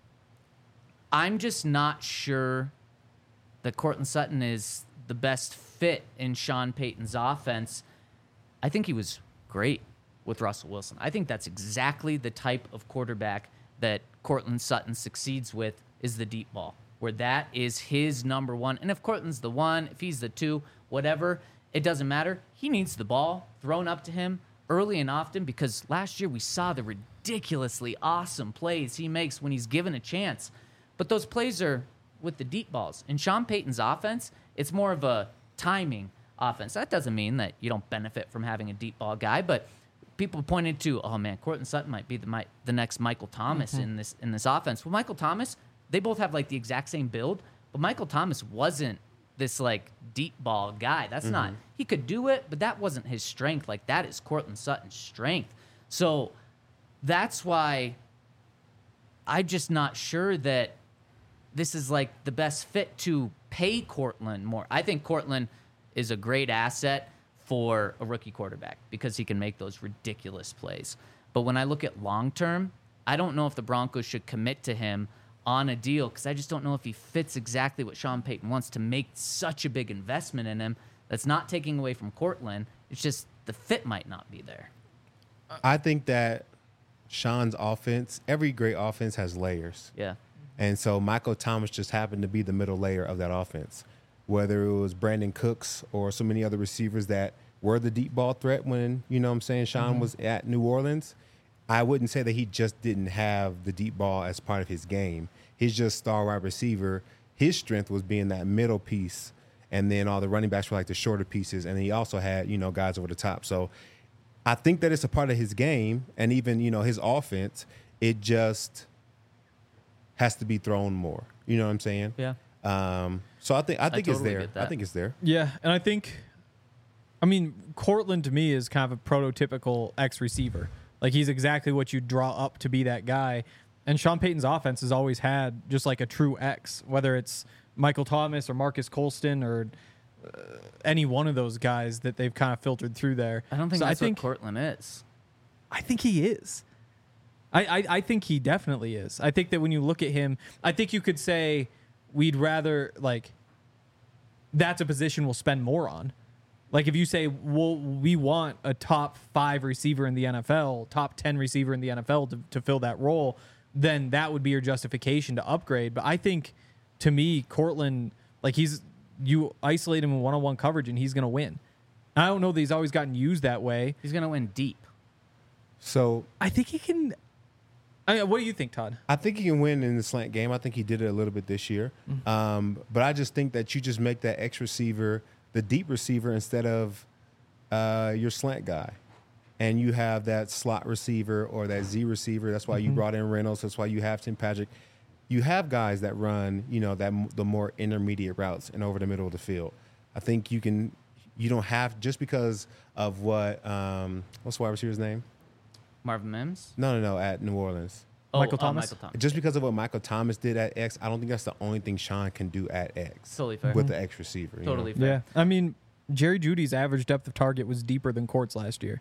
I'm just not sure that Cortland Sutton is the best fit in Sean Payton's offense. I think he was great with Russell Wilson. I think that's exactly the type of quarterback that Cortland Sutton succeeds with is the deep ball, where that is his number one. And if Cortland's the one, if he's the two, whatever, it doesn't matter. He needs the ball thrown up to him early and often because last year we saw the ridiculously awesome plays he makes when he's given a chance. But those plays are with the deep balls. In Sean Payton's offense, it's more of a timing offense. That doesn't mean that you don't benefit from having a deep ball guy, but people pointed to, oh man, Cortland Sutton might be the next Michael Thomas in this offense. Well, Michael Thomas, they both have like the exact same build, but Michael Thomas wasn't this like deep ball guy. That's not. He could do it, but that wasn't his strength. Like that is Cortland Sutton's strength. So that's why I'm just not sure that this is like the best fit to pay Cortland more. I think Cortland is a great asset for a rookie quarterback because he can make those ridiculous plays. But when I look at long term, I don't know if the Broncos should commit to him on a deal because I just don't know if he fits exactly what Sean Payton wants to make such a big investment in him. That's not taking away from Cortland. It's just the fit might not be there. I think that Sean's offense, every great offense has layers. Yeah. And so Michael Thomas just happened to be the middle layer of that offense. Whether it was Brandon Cooks or so many other receivers that were the deep ball threat when, you know what I'm saying, Sean was at New Orleans, I wouldn't say that he just didn't have the deep ball as part of his game. He's just star wide receiver. His strength was being that middle piece, and then all the running backs were like the shorter pieces, and he also had, you know, guys over the top. So I think that it's a part of his game, and even, you know, his offense, it just has to be thrown more. You know what I'm saying? Yeah. So I think it's totally there. get that. I think it's there. Yeah, and I think I mean, Cortland to me is kind of a prototypical X receiver. Like he's exactly what you draw up to be that guy. And Sean Payton's offense has always had just like a true X, whether it's Michael Thomas or Marcus Colston or any one of those guys that they've kind of filtered through there. I don't think that's what Cortland is. I think he is. I think he definitely is. I think that when you look at him, I think you could say we'd rather, like, that's a position we'll spend more on. Like, if you say, well, we want a top 5 receiver in the NFL, top 10 receiver in the NFL to fill that role, then that would be your justification to upgrade. But I think, to me, Cortland, like, you isolate him in one-on-one coverage and he's going to win. I don't know that he's always gotten used that way. He's going to win deep. So I think he can. What do you think, Todd? I think he can win in the slant game. I think he did it a little bit this year. But I just think that you just make that X receiver the deep receiver instead of your slant guy. And you have that slot receiver or that Z receiver. That's why you brought in Reynolds. That's why you have Tim Patrick. You have guys that run, the more intermediate routes and over the middle of the field. I think you don't have, just because of what, what's the wide receiver's name? Marvin Mims? No, at New Orleans. Michael Thomas? Michael Thomas. Just because of what Michael Thomas did at X, I don't think that's the only thing Sean can do at X. Totally fair. With the X receiver. Totally fair. Yeah. I mean, Jerry Jeudy's average depth of target was deeper than Court's last year.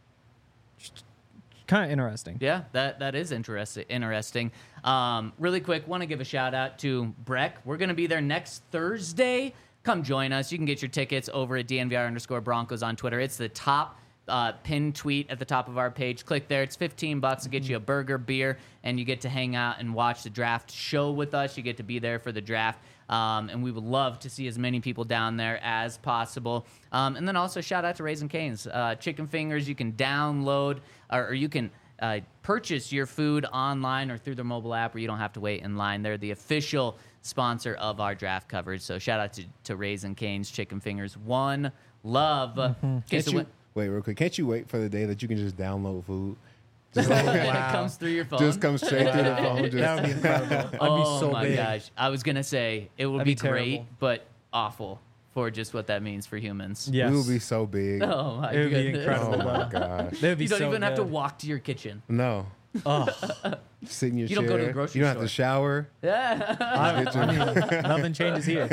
Kind of interesting. Yeah, that is interesting. Really quick, want to give a shout out to Breck. We're going to be there next Thursday. Come join us. You can get your tickets over at DNVR_Broncos on Twitter. It's the top pinned tweet at the top of our page. Click there. It's $15 to get you a burger, beer, and you get to hang out and watch the draft show with us. You get to be there for the draft. And we would love to see as many people down there as possible. And then also shout out to Raising Cane's. Chicken fingers you can download or you can purchase your food online or through their mobile app where you don't have to wait in line. They're the official sponsor of our draft coverage. So shout out to Raising Cane's Chicken Fingers. One love. Okay, Wait, real quick. Can't you wait for the day that you can just download food? Just like, it comes through your phone. Just comes straight through the phone. That would be incredible. I'd be so my big. gosh. I was going to say it would That'd be be great, terrible. but awful for just what that means for humans. Yes. We will be so big. Oh, my It would be goodness. incredible. Oh my gosh. They would be You don't so even have to good. walk to your kitchen. No. Oh, Sit in your You chair. don't go to the grocery You don't have to shower. Yeah. I mean, nothing changes here.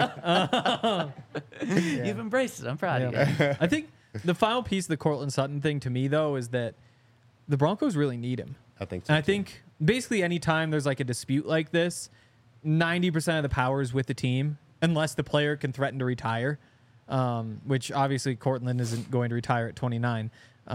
You've embraced it. I'm proud of you. Yeah. I think the final piece of the Courtland Sutton thing to me, though, is that the Broncos really need him. I think so. And I think basically anytime there's like a dispute like this, 90% of the power is with the team, unless the player can threaten to retire, which obviously Courtland isn't going to retire at 29.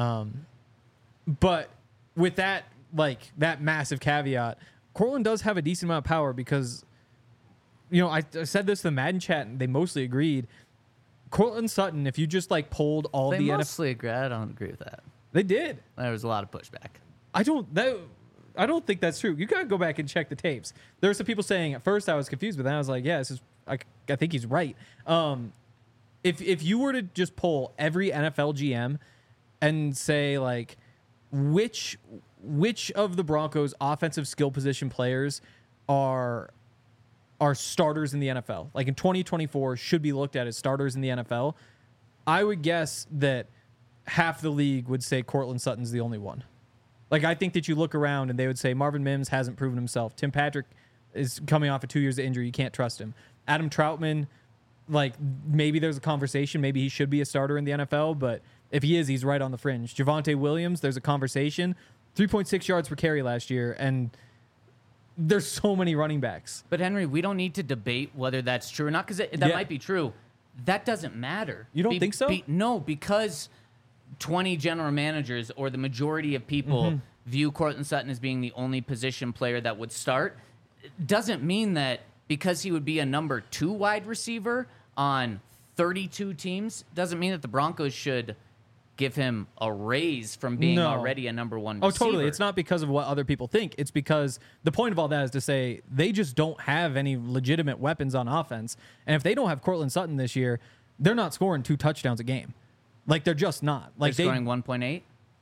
But with that, like that massive caveat, Courtland does have a decent amount of power because, I said this to the Madden chat and they mostly agreed. Courtland Sutton, if you just like polled all They the NFL, mostly agree. I don't agree with that. they did. There was a lot of pushback. I don't think that's true. You gotta go back and check the tapes. There were some people saying at first I was confused, but then I was like, yeah, I think he's right. If you were to just poll every NFL GM and say like which of the Broncos offensive skill position players are starters in the NFL, like in 2024 should be looked at as starters in the NFL, I would guess that half the league would say Courtland Sutton's the only one. Like, I think that you look around and they would say Marvin Mims hasn't proven himself. Tim Patrick is coming off of 2 years of injury. You can't trust him. Adam Troutman, like, maybe there's a conversation. Maybe he should be a starter in the NFL, but if he is, he's right on the fringe. Javonte Williams, there's a conversation. 3.6 yards per carry last year, and there's so many running backs. But Henry, we don't need to debate whether that's true or not because that might be true. That doesn't matter. You don't think so? No, because 20 general managers or the majority of people view Courtland Sutton as being the only position player that would start. It doesn't mean that because he would be a number 2 wide receiver on 32 teams, doesn't mean that the Broncos should give him a raise from being already a number 1 receiver. Oh, totally. It's not because of what other people think. It's because the point of all that is to say they just don't have any legitimate weapons on offense. And if they don't have Courtland Sutton this year, they're not scoring 2 touchdowns a game. Like, they're just not. Like, They're scoring 1.8.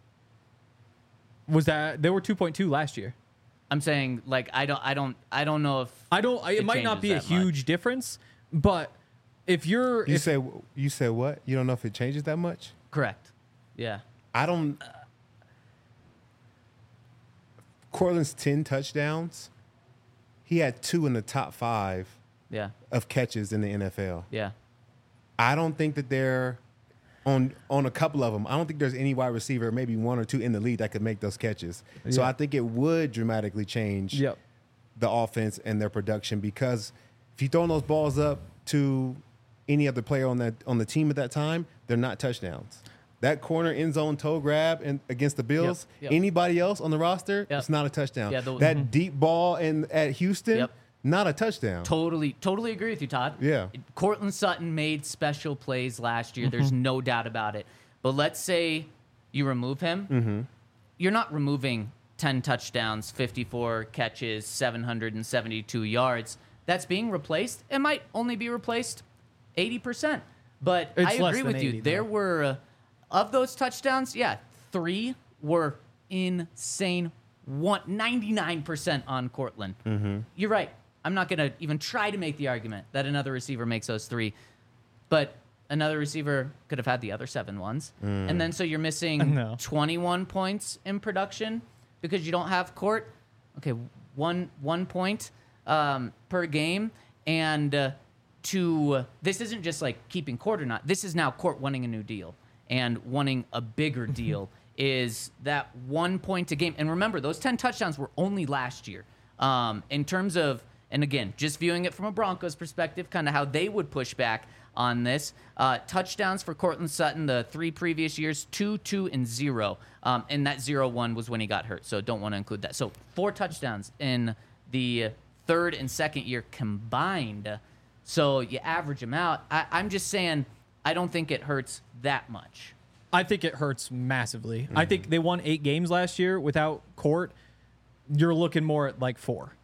Was that they were 2.2 last year? I'm saying, like, I don't know if It might not changes be a that huge difference, but if you're You if, said what? You don't know if it changes that much? Correct. Yeah. I don't. Cortland's 10 touchdowns. He had 2 in the top 5 Yeah. of catches in the NFL. Yeah. I don't think that they're on a couple of them. I don't think there's any wide receiver, maybe 1 or 2 in the league that could make those catches. So Yeah. I think it would dramatically change Yep. the offense and their production, because if you throw those balls up to any other player on the team at that time, they're not touchdowns. That corner end zone toe grab against the Bills, Yep. anybody else on the roster, Yep. it's not a touchdown. Yeah, that deep ball at Houston, Yep. not a touchdown. Totally agree with you, Todd. Yeah. Cortland Sutton made special plays last year. There's no doubt about it. But let's say you remove him. You're not removing 10 touchdowns, 54 catches, 772 yards. That's being replaced. It might only be replaced 80%. But It's I less agree than with you. 80, There though. were, of those touchdowns, 3 were insane. 99% on Cortland. You're right. I'm not going to even try to make the argument that another receiver makes those 3. But another receiver could have had the other 7 ones. And then so you're missing No. 21 points in production because you don't have Court. Okay, one point per game. And this isn't just like keeping Court or not. This is now Court wanting a new deal and wanting a bigger deal. Is that 1 point a game? And remember, those 10 touchdowns were only last year. In terms of, and again, just viewing it from a Broncos perspective, kind of how they would push back on this. Touchdowns for Cortland Sutton the 3 previous years, 2, 2, and 0. And that 0-1 was when he got hurt, so don't want to include that. So 4 touchdowns in the third and second year combined. So you average them out. I'm just saying I don't think it hurts that much. I think it hurts massively. I think they won 8 games last year without Court. You're looking more at like 4.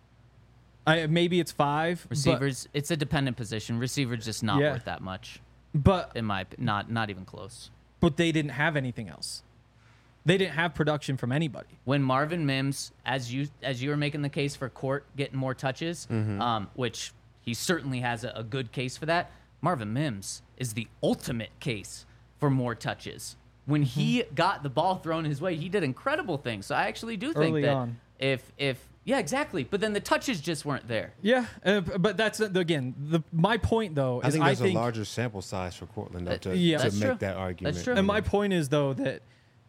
Maybe it's 5. Receivers, it's a dependent position. Receivers just not Yeah. worth that much. But In my not even close. they didn't have anything else. They didn't have production from anybody. When Marvin Mims, as you were making the case for Court getting more touches, which he certainly has a good case for that. Marvin Mims is the ultimate case for more touches. When he got the ball thrown his way, he did incredible things. So I actually do think Early that on. if yeah, exactly. But then the touches just weren't there. Yeah, but that's again my point though. I Is think there's a larger sample size for Cortland though, to That's make true. that argument. That's true. And my point is though that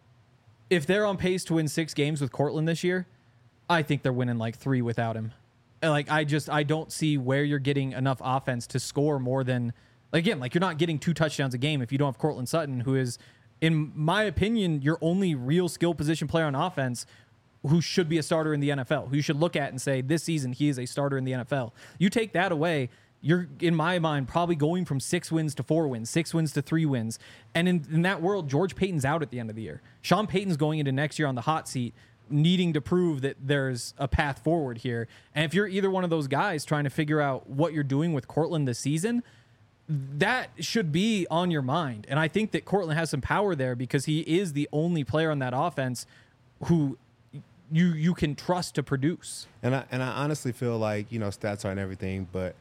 if they're on pace to win 6 games with Cortland this year, I think they're winning like 3 without him. Like I don't see where you're getting enough offense to score more than, again, like you're not getting 2 touchdowns a game if you don't have Cortland Sutton, who is, in my opinion, your only real skill position player on offense, who should be a starter in the NFL, who you should look at and say this season he is a starter in the NFL. You take that away, you're, in my mind, probably going from 6 wins to 4 wins, 6 wins to 3 wins. And in that world, George Payton's out at the end of the year. Sean Payton's going into next year on the hot seat, needing to prove that there's a path forward here. And if you're either one of those guys trying to figure out what you're doing with Cortland this season, that should be on your mind. And I think that Cortland has some power there because he is the only player on that offense who you can trust to produce. And I honestly feel like, stats aren't everything, but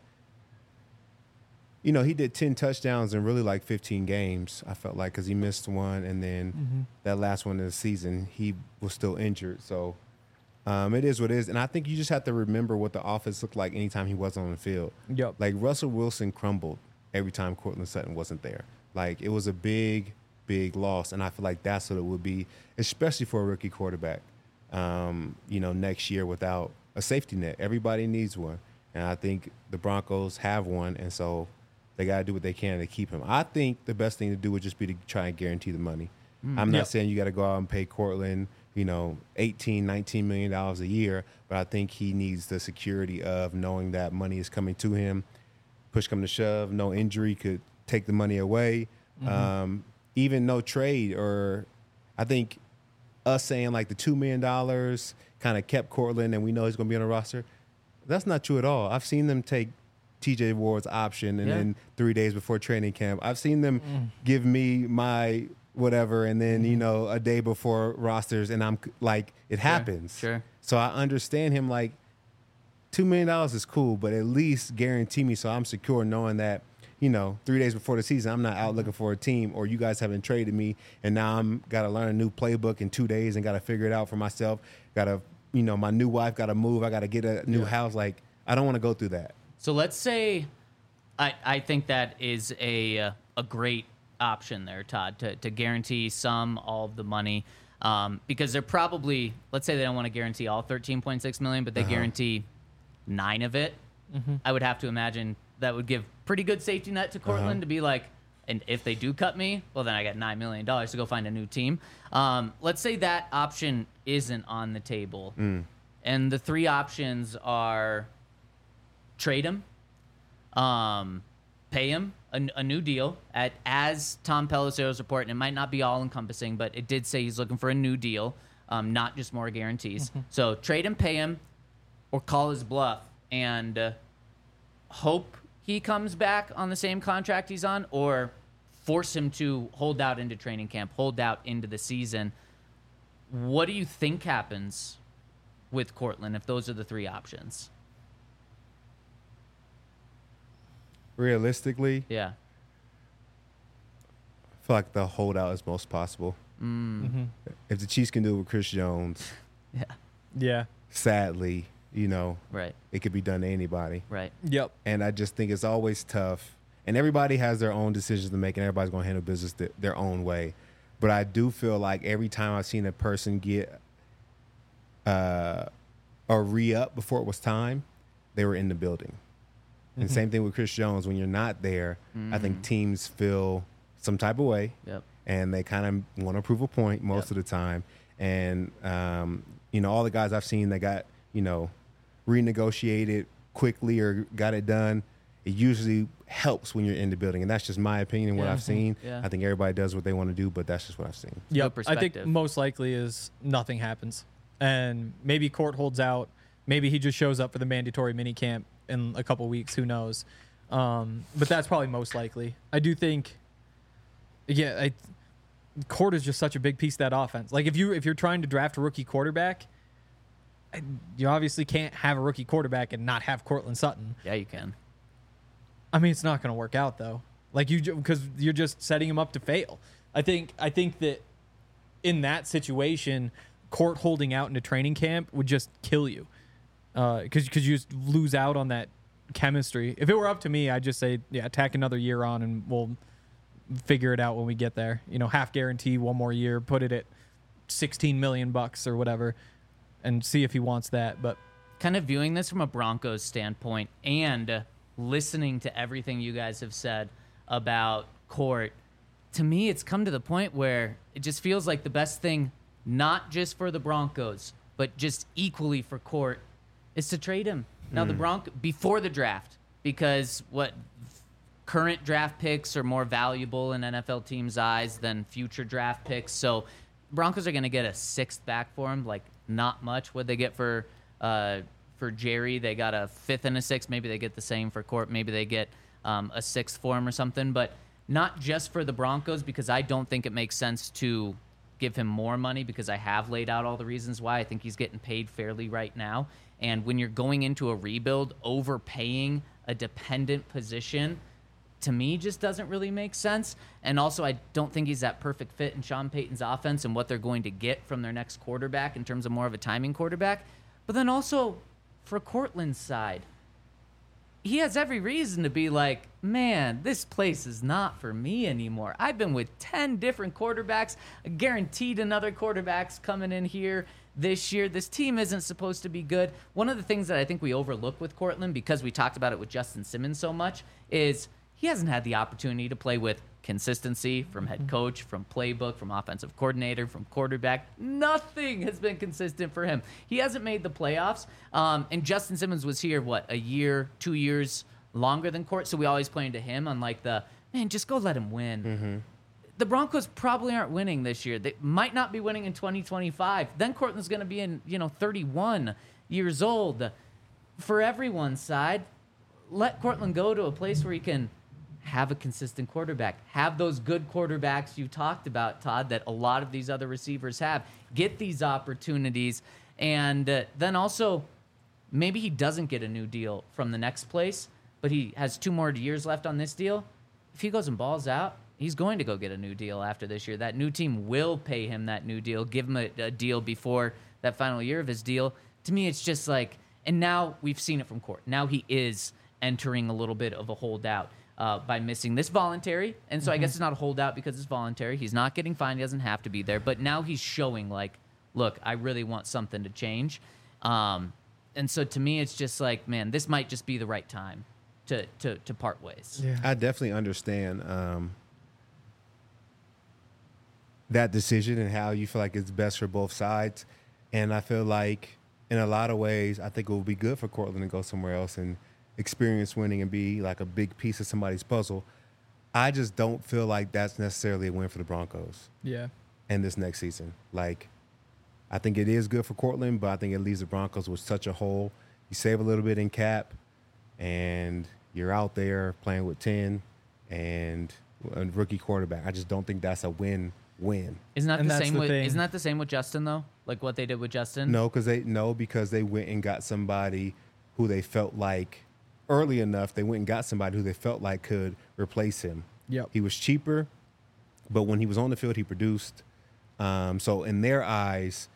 he did 10 touchdowns in really like 15 games, I felt like, because he missed one, and then that last one of the season, he was still injured. So it is what it is. And I think you just have to remember what the offense looked like anytime he wasn't on the field. Yep. Like Russell Wilson crumbled every time Cortland Sutton wasn't there. Like it was a big, big loss. And I feel like that's what it would be, especially for a rookie quarterback, next year without a safety net. Everybody needs one. And I think the Broncos have one. And so they got to do what they can to keep him. I think the best thing to do would just be to try and guarantee the money. I'm not saying you got to go out and pay Cortland, $18, $19 million a year, but I think he needs the security of knowing that money is coming to him. Push come to shove, no injury could take the money away. Even no trade, or I think us saying like the $2 million kind of kept Cortland and we know he's going to be on the roster. That's not true at all. I've seen them take TJ Ward's option and then 3 days before training camp. I've seen them give me my whatever and then, a day before rosters, and I'm like, it happens. Sure. So I understand him like, $2 million is cool, but at least guarantee me so I'm secure knowing that 3 days before the season, I'm not out looking for a team, or you guys haven't traded me, and now I'm got to learn a new playbook in 2 days and got to figure it out for myself. Got to, my new wife got to move. I got to get a new house. Like, I don't want to go through that. So let's say, I think that is a great option there, Todd, to guarantee all of the money, because they're probably, let's say they don't want to guarantee all 13.6 million, but they guarantee 9 of it. I would have to imagine that would give pretty good safety net to Cortland to be like, and if they do cut me, well, then I got $9 million to go find a new team. Let's say that option isn't on the table, and the 3 options are trade him, pay him a new deal as Tom Pelissero's report, and it might not be all encompassing, but it did say he's looking for a new deal, not just more guarantees. So trade him, pay him, or call his bluff and hope he comes back on the same contract he's on, or force him to hold out into training camp, hold out into the season. What do you think happens with Cortland if those are the 3 options? Realistically, Yeah. I feel like the holdout is most possible. If the Chiefs can do it with Chris Jones, Yeah. Yeah. sadly, Right. it could be done to anybody. Right. Yep. And I just think it's always tough. And everybody has their own decisions to make, and everybody's going to handle business their own way. But I do feel like every time I've seen a person get a re-up before it was time, they were in the building. And same thing with Chris Jones. When you're not there, I think teams feel some type of way. Yep. And they kind of want to prove a point most of the time. And, all the guys I've seen that got, renegotiated quickly or got it done, it usually helps when you're in the building. And that's just my opinion and what I've seen. Yeah. I think everybody does what they want to do, but that's just what I've seen. Your Yep. I think perspective. most likely is nothing happens. And maybe Court holds out. Maybe he just shows up for the mandatory mini camp in a couple weeks. Who knows? But that's probably most likely. I do think, Court is just such a big piece of that offense. Like if you're trying to draft a rookie quarterback, you obviously can't have a rookie quarterback and not have Cortland Sutton. Yeah, you can. I mean, it's not going to work out though. Like because you're just setting him up to fail. I think that in that situation, Court holding out into training camp would just kill you. Because you just lose out on that chemistry. If it were up to me, I'd just say, tack another year on, and we'll figure it out when we get there. Half guarantee 1 more year, put it at $16 million or whatever, and see if he wants that. But Kind of viewing this from a Broncos standpoint and listening to everything you guys have said about Court, to me, it's come to the point where it just feels like the best thing, not just for the Broncos, but just equally for Court, is to trade him. Now, the before the draft, because current draft picks are more valuable in NFL teams' eyes than future draft picks. So Broncos are going to get a 6th back for him, like not much. What they get for Jerry, they got a 5th and a 6th. Maybe they get the same for Court. Maybe they get a 6th for him or something. But not just for the Broncos, because I don't think it makes sense to give him more money, because I have laid out all the reasons why. I think he's getting paid fairly right now. And when you're going into a rebuild, overpaying a dependent position, to me, just doesn't really make sense. And also, I don't think he's that perfect fit in Sean Payton's offense and what they're going to get from their next quarterback in terms of more of a timing quarterback. But then also, for Cortland's side, he has every reason to be like, man, this place is not for me anymore. I've been with 10 different quarterbacks, guaranteed another quarterback's coming in here this year. This team isn't supposed to be good. One of the things that I think we overlook with Cortland, because we talked about it with Justin Simmons so much, is he hasn't had the opportunity to play with consistency from head coach, from playbook, from offensive coordinator, from quarterback. Nothing has been consistent for him. He hasn't made the playoffs. And Justin Simmons was here, a year, 2 years longer than Court. So we always pointed to him on man, just go let him win. The Broncos probably aren't winning this year. They might not be winning in 2025. Then Cortland's going to be in, 31 years old. For everyone's side, let Cortland go to a place where he can have a consistent quarterback, have those good quarterbacks you talked about, Todd, that a lot of these other receivers have, get these opportunities, and then also maybe he doesn't get a new deal from the next place, but he has 2 more years left on this deal. If he goes and balls out, he's going to go get a new deal after this year. That new team will pay him that new deal, give him a deal before that final year of his deal. To me, it's just like, and now we've seen it from Court. Now he is entering a little bit of a holdout by missing this voluntary. And so I guess it's not a holdout because it's voluntary. He's not getting fined. He doesn't have to be there. But now he's showing like, look, I really want something to change. And so to me, it's just like, man, this might just be the right time to part ways. Yeah. I definitely understand that decision and how you feel like it's best for both sides. And I feel like in a lot of ways, I think it will be good for Cortland to go somewhere else and experience winning and be like a big piece of somebody's puzzle. I just don't feel like that's necessarily a win for the Broncos Yeah. in this next season. Like, I think it is good for Cortland, but I think it leaves the Broncos with such a hole. You save a little bit in cap, and you're out there playing with 10 and a rookie quarterback. I just don't think that's a win-win. Isn't that And the that's same the with thing. Isn't that the same with Justin though? Like what they did with Justin? No, because they went and got somebody who they felt like early enough. They went and got somebody who they felt like could replace him. Yep. He was cheaper, but when he was on the field, he produced. So in their eyes,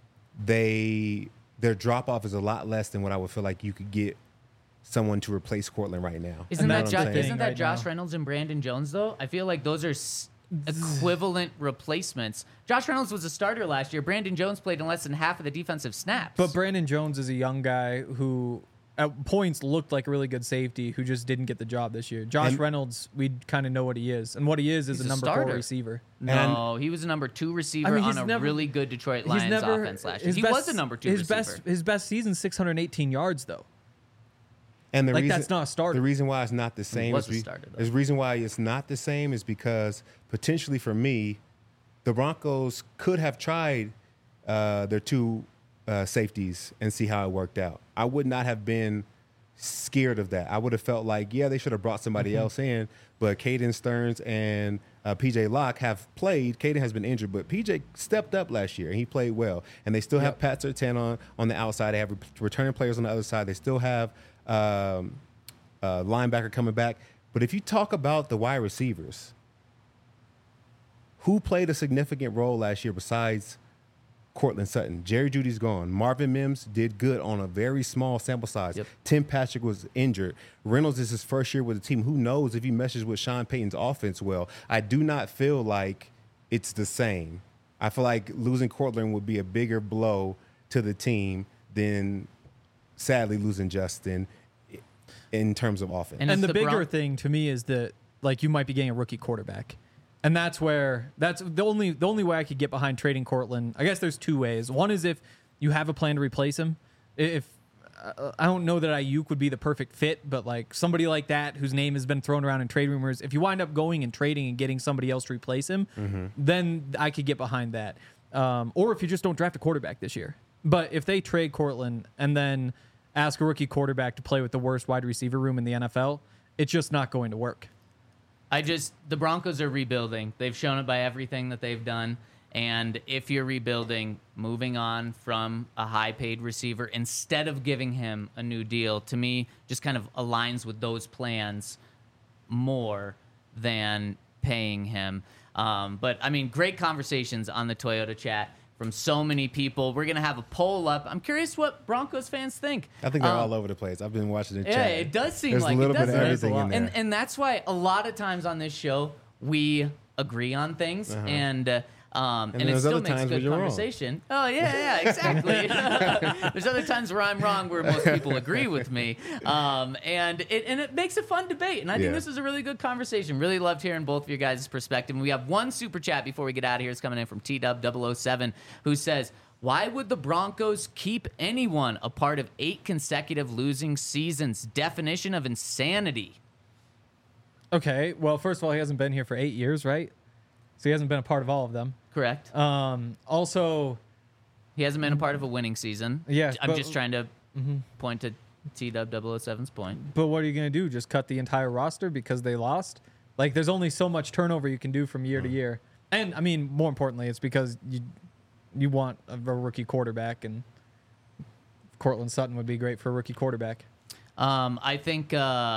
their drop off is a lot less than what I would feel like you could get someone to replace Cortland right now. Isn't And that that's You know what I'm saying? isn't that right Josh now. Reynolds and Brandon Jones though? I feel like those are equivalent replacements. Josh Reynolds was a starter last year. Brandon Jones played in less than half of the defensive snaps. But Brandon Jones is a young guy who at points looked like a really good safety who just didn't get the job this year. Josh And- Reynolds, we kind of know what he is. And what he is He's a a number starter. 4 receiver. no, he was a number 2 receiver I mean, on he's a never- really good Detroit Lions offense last year. He was a number 2 receiver. His best season, 618 yards, though. And the Like, reason, that's not a starter. The reason why it's not the same was is a starter, though. the reason why it's not the same is because potentially for me, the Broncos could have tried their 2 safeties and see how it worked out. I would not have been scared of that. I would have felt like, yeah, they should have brought somebody else in, but Caden Stearns and PJ Locke have played. Caden has been injured, but PJ stepped up last year and he played well. And they still have Pat Surtain on the outside. They have returning players on the other side. They still have linebacker coming back. But if you talk about the wide receivers, who played a significant role last year besides Cortland Sutton? Jerry Jeudy's gone. Marvin Mims did good on a very small sample size. Yep. Tim Patrick was injured. Reynolds is his first year with the team. Who knows if he meshes with Sean Payton's offense well? I do not feel like it's the same. I feel like losing Cortland would be a bigger blow to the team than, sadly, losing Justin in terms of offense. And And if the the bigger Bron- thing to me is that like you might be getting a rookie quarterback. And that's the only way I could get behind trading Cortland. I guess there's 2 ways. One is if you have a plan to replace him. If I don't know that Ayuk would be the perfect fit, but like somebody like that whose name has been thrown around in trade rumors, if you wind up going and trading and getting somebody else to replace him, then I could get behind that. Or if you just don't draft a quarterback this year. But if they trade Cortland and then ask a rookie quarterback to play with the worst wide receiver room in the NFL, it's just not going to work. The Broncos are rebuilding. They've shown it by everything that they've done. And if you're rebuilding, moving on from a high-paid receiver instead of giving him a new deal, to me, just kind of aligns with those plans more than paying him. But, I mean, great conversations on the Toyota chat from so many people. We're going to have a poll up. I'm curious what Broncos fans think. I think they're all over the place. I've been watching the Yeah, chat. it does seem There's like a little it, bit of doesn't it? everything in there. And that's why a lot of times on this show we agree on things, and it there's still other makes times where good you're wrong. conversation. Oh yeah, exactly. There's other times where I'm wrong, where most people agree with me, and it makes a fun debate. And I think Yeah. this is a really good conversation. Really loved hearing both of your guys' perspective. And we have one super chat before we get out of here. It's coming in from TW007, who says, why would the Broncos keep anyone a part of 8 consecutive losing seasons? Definition of insanity. Okay, well, first of all, he hasn't been here for 8 years, right? So he hasn't been a part of all of them. Correct. Also, He hasn't been a part of a winning season. Yeah, I'm but- just trying to point to TW007's point. but what are you going to do? Just cut the entire roster because they lost? Like, there's only so much turnover you can do from year to year. And, I mean, more importantly, it's because you want a rookie quarterback, and Cortland Sutton would be great for a rookie quarterback. I think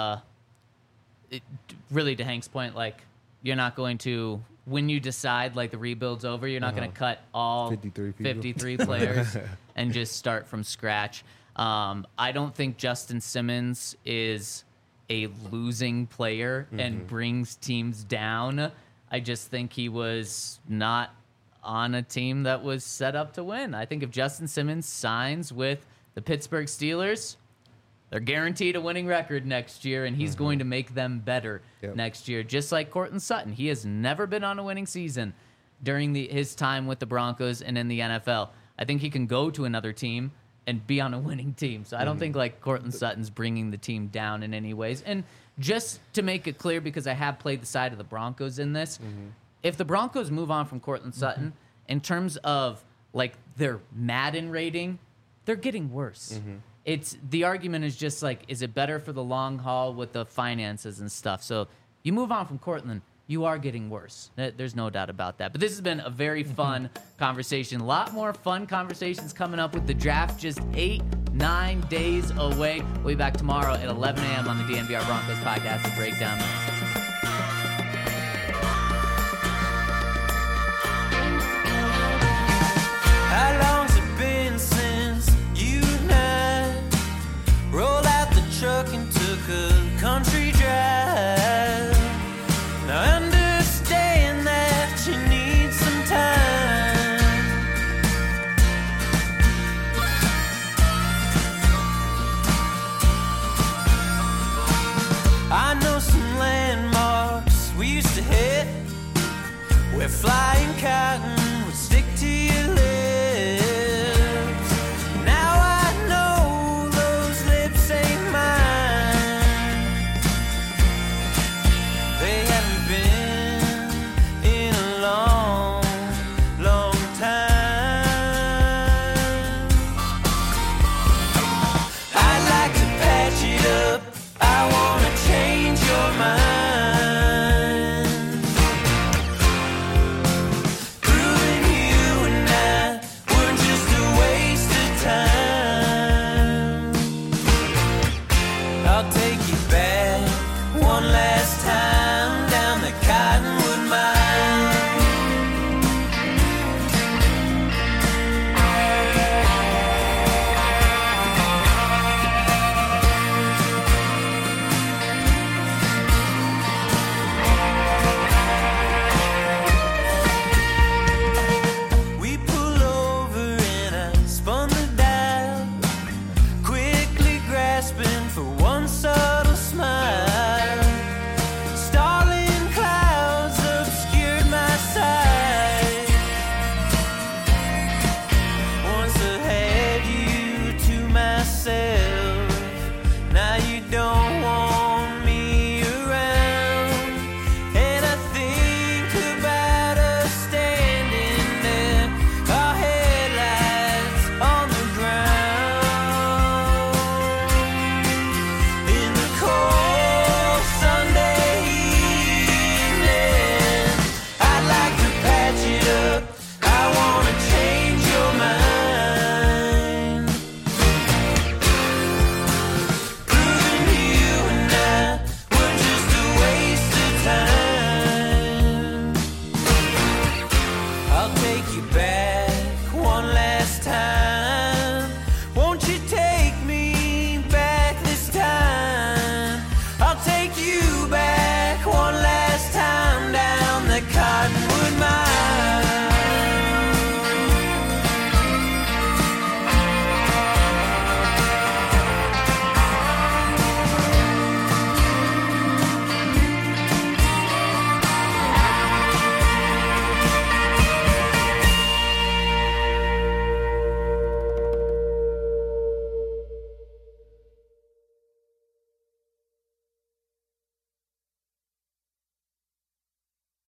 really to Hank's point, like you're not going to when you decide like the rebuild's over, you're not going to cut all 53 players and just start from scratch. I don't think Justin Simmons is a losing player and brings teams down. I just think he was not on a team that was set up to win. I think if Justin Simmons signs with the Pittsburgh Steelers, they're guaranteed a winning record next year, and he's going to make them better next year. Just like Courtland Sutton. He has never been on a winning season during his time with the Broncos and in the NFL. I think he can go to another team and be on a winning team. So I don't think like Courtland Sutton's bringing the team down in any ways. And just to make it clear, because I have played the side of the Broncos in this, if the Broncos move on from Courtland Sutton, in terms of like their Madden rating, they're getting worse. It's the argument is just like, is it better for the long haul with the finances and stuff? So you move on from Courtland, you are getting worse. There's no doubt about that. But this has been a very fun conversation. A lot more fun conversations coming up with the draft just 8-9 days away. We'll be back tomorrow at 11 a.m. on the DNVR Broncos podcast to break down. How long's it been since you and I rolled out the truck and took a country drive? Now I understand that you need some time. I know some landmarks we used to hit where flying cotton would stick to your lips. Now I know those lips ain't mine. They haven't been in a long, long time. I'd like to patch it up. I wanna change your mind. Proving you and I were just a waste of time. I'll take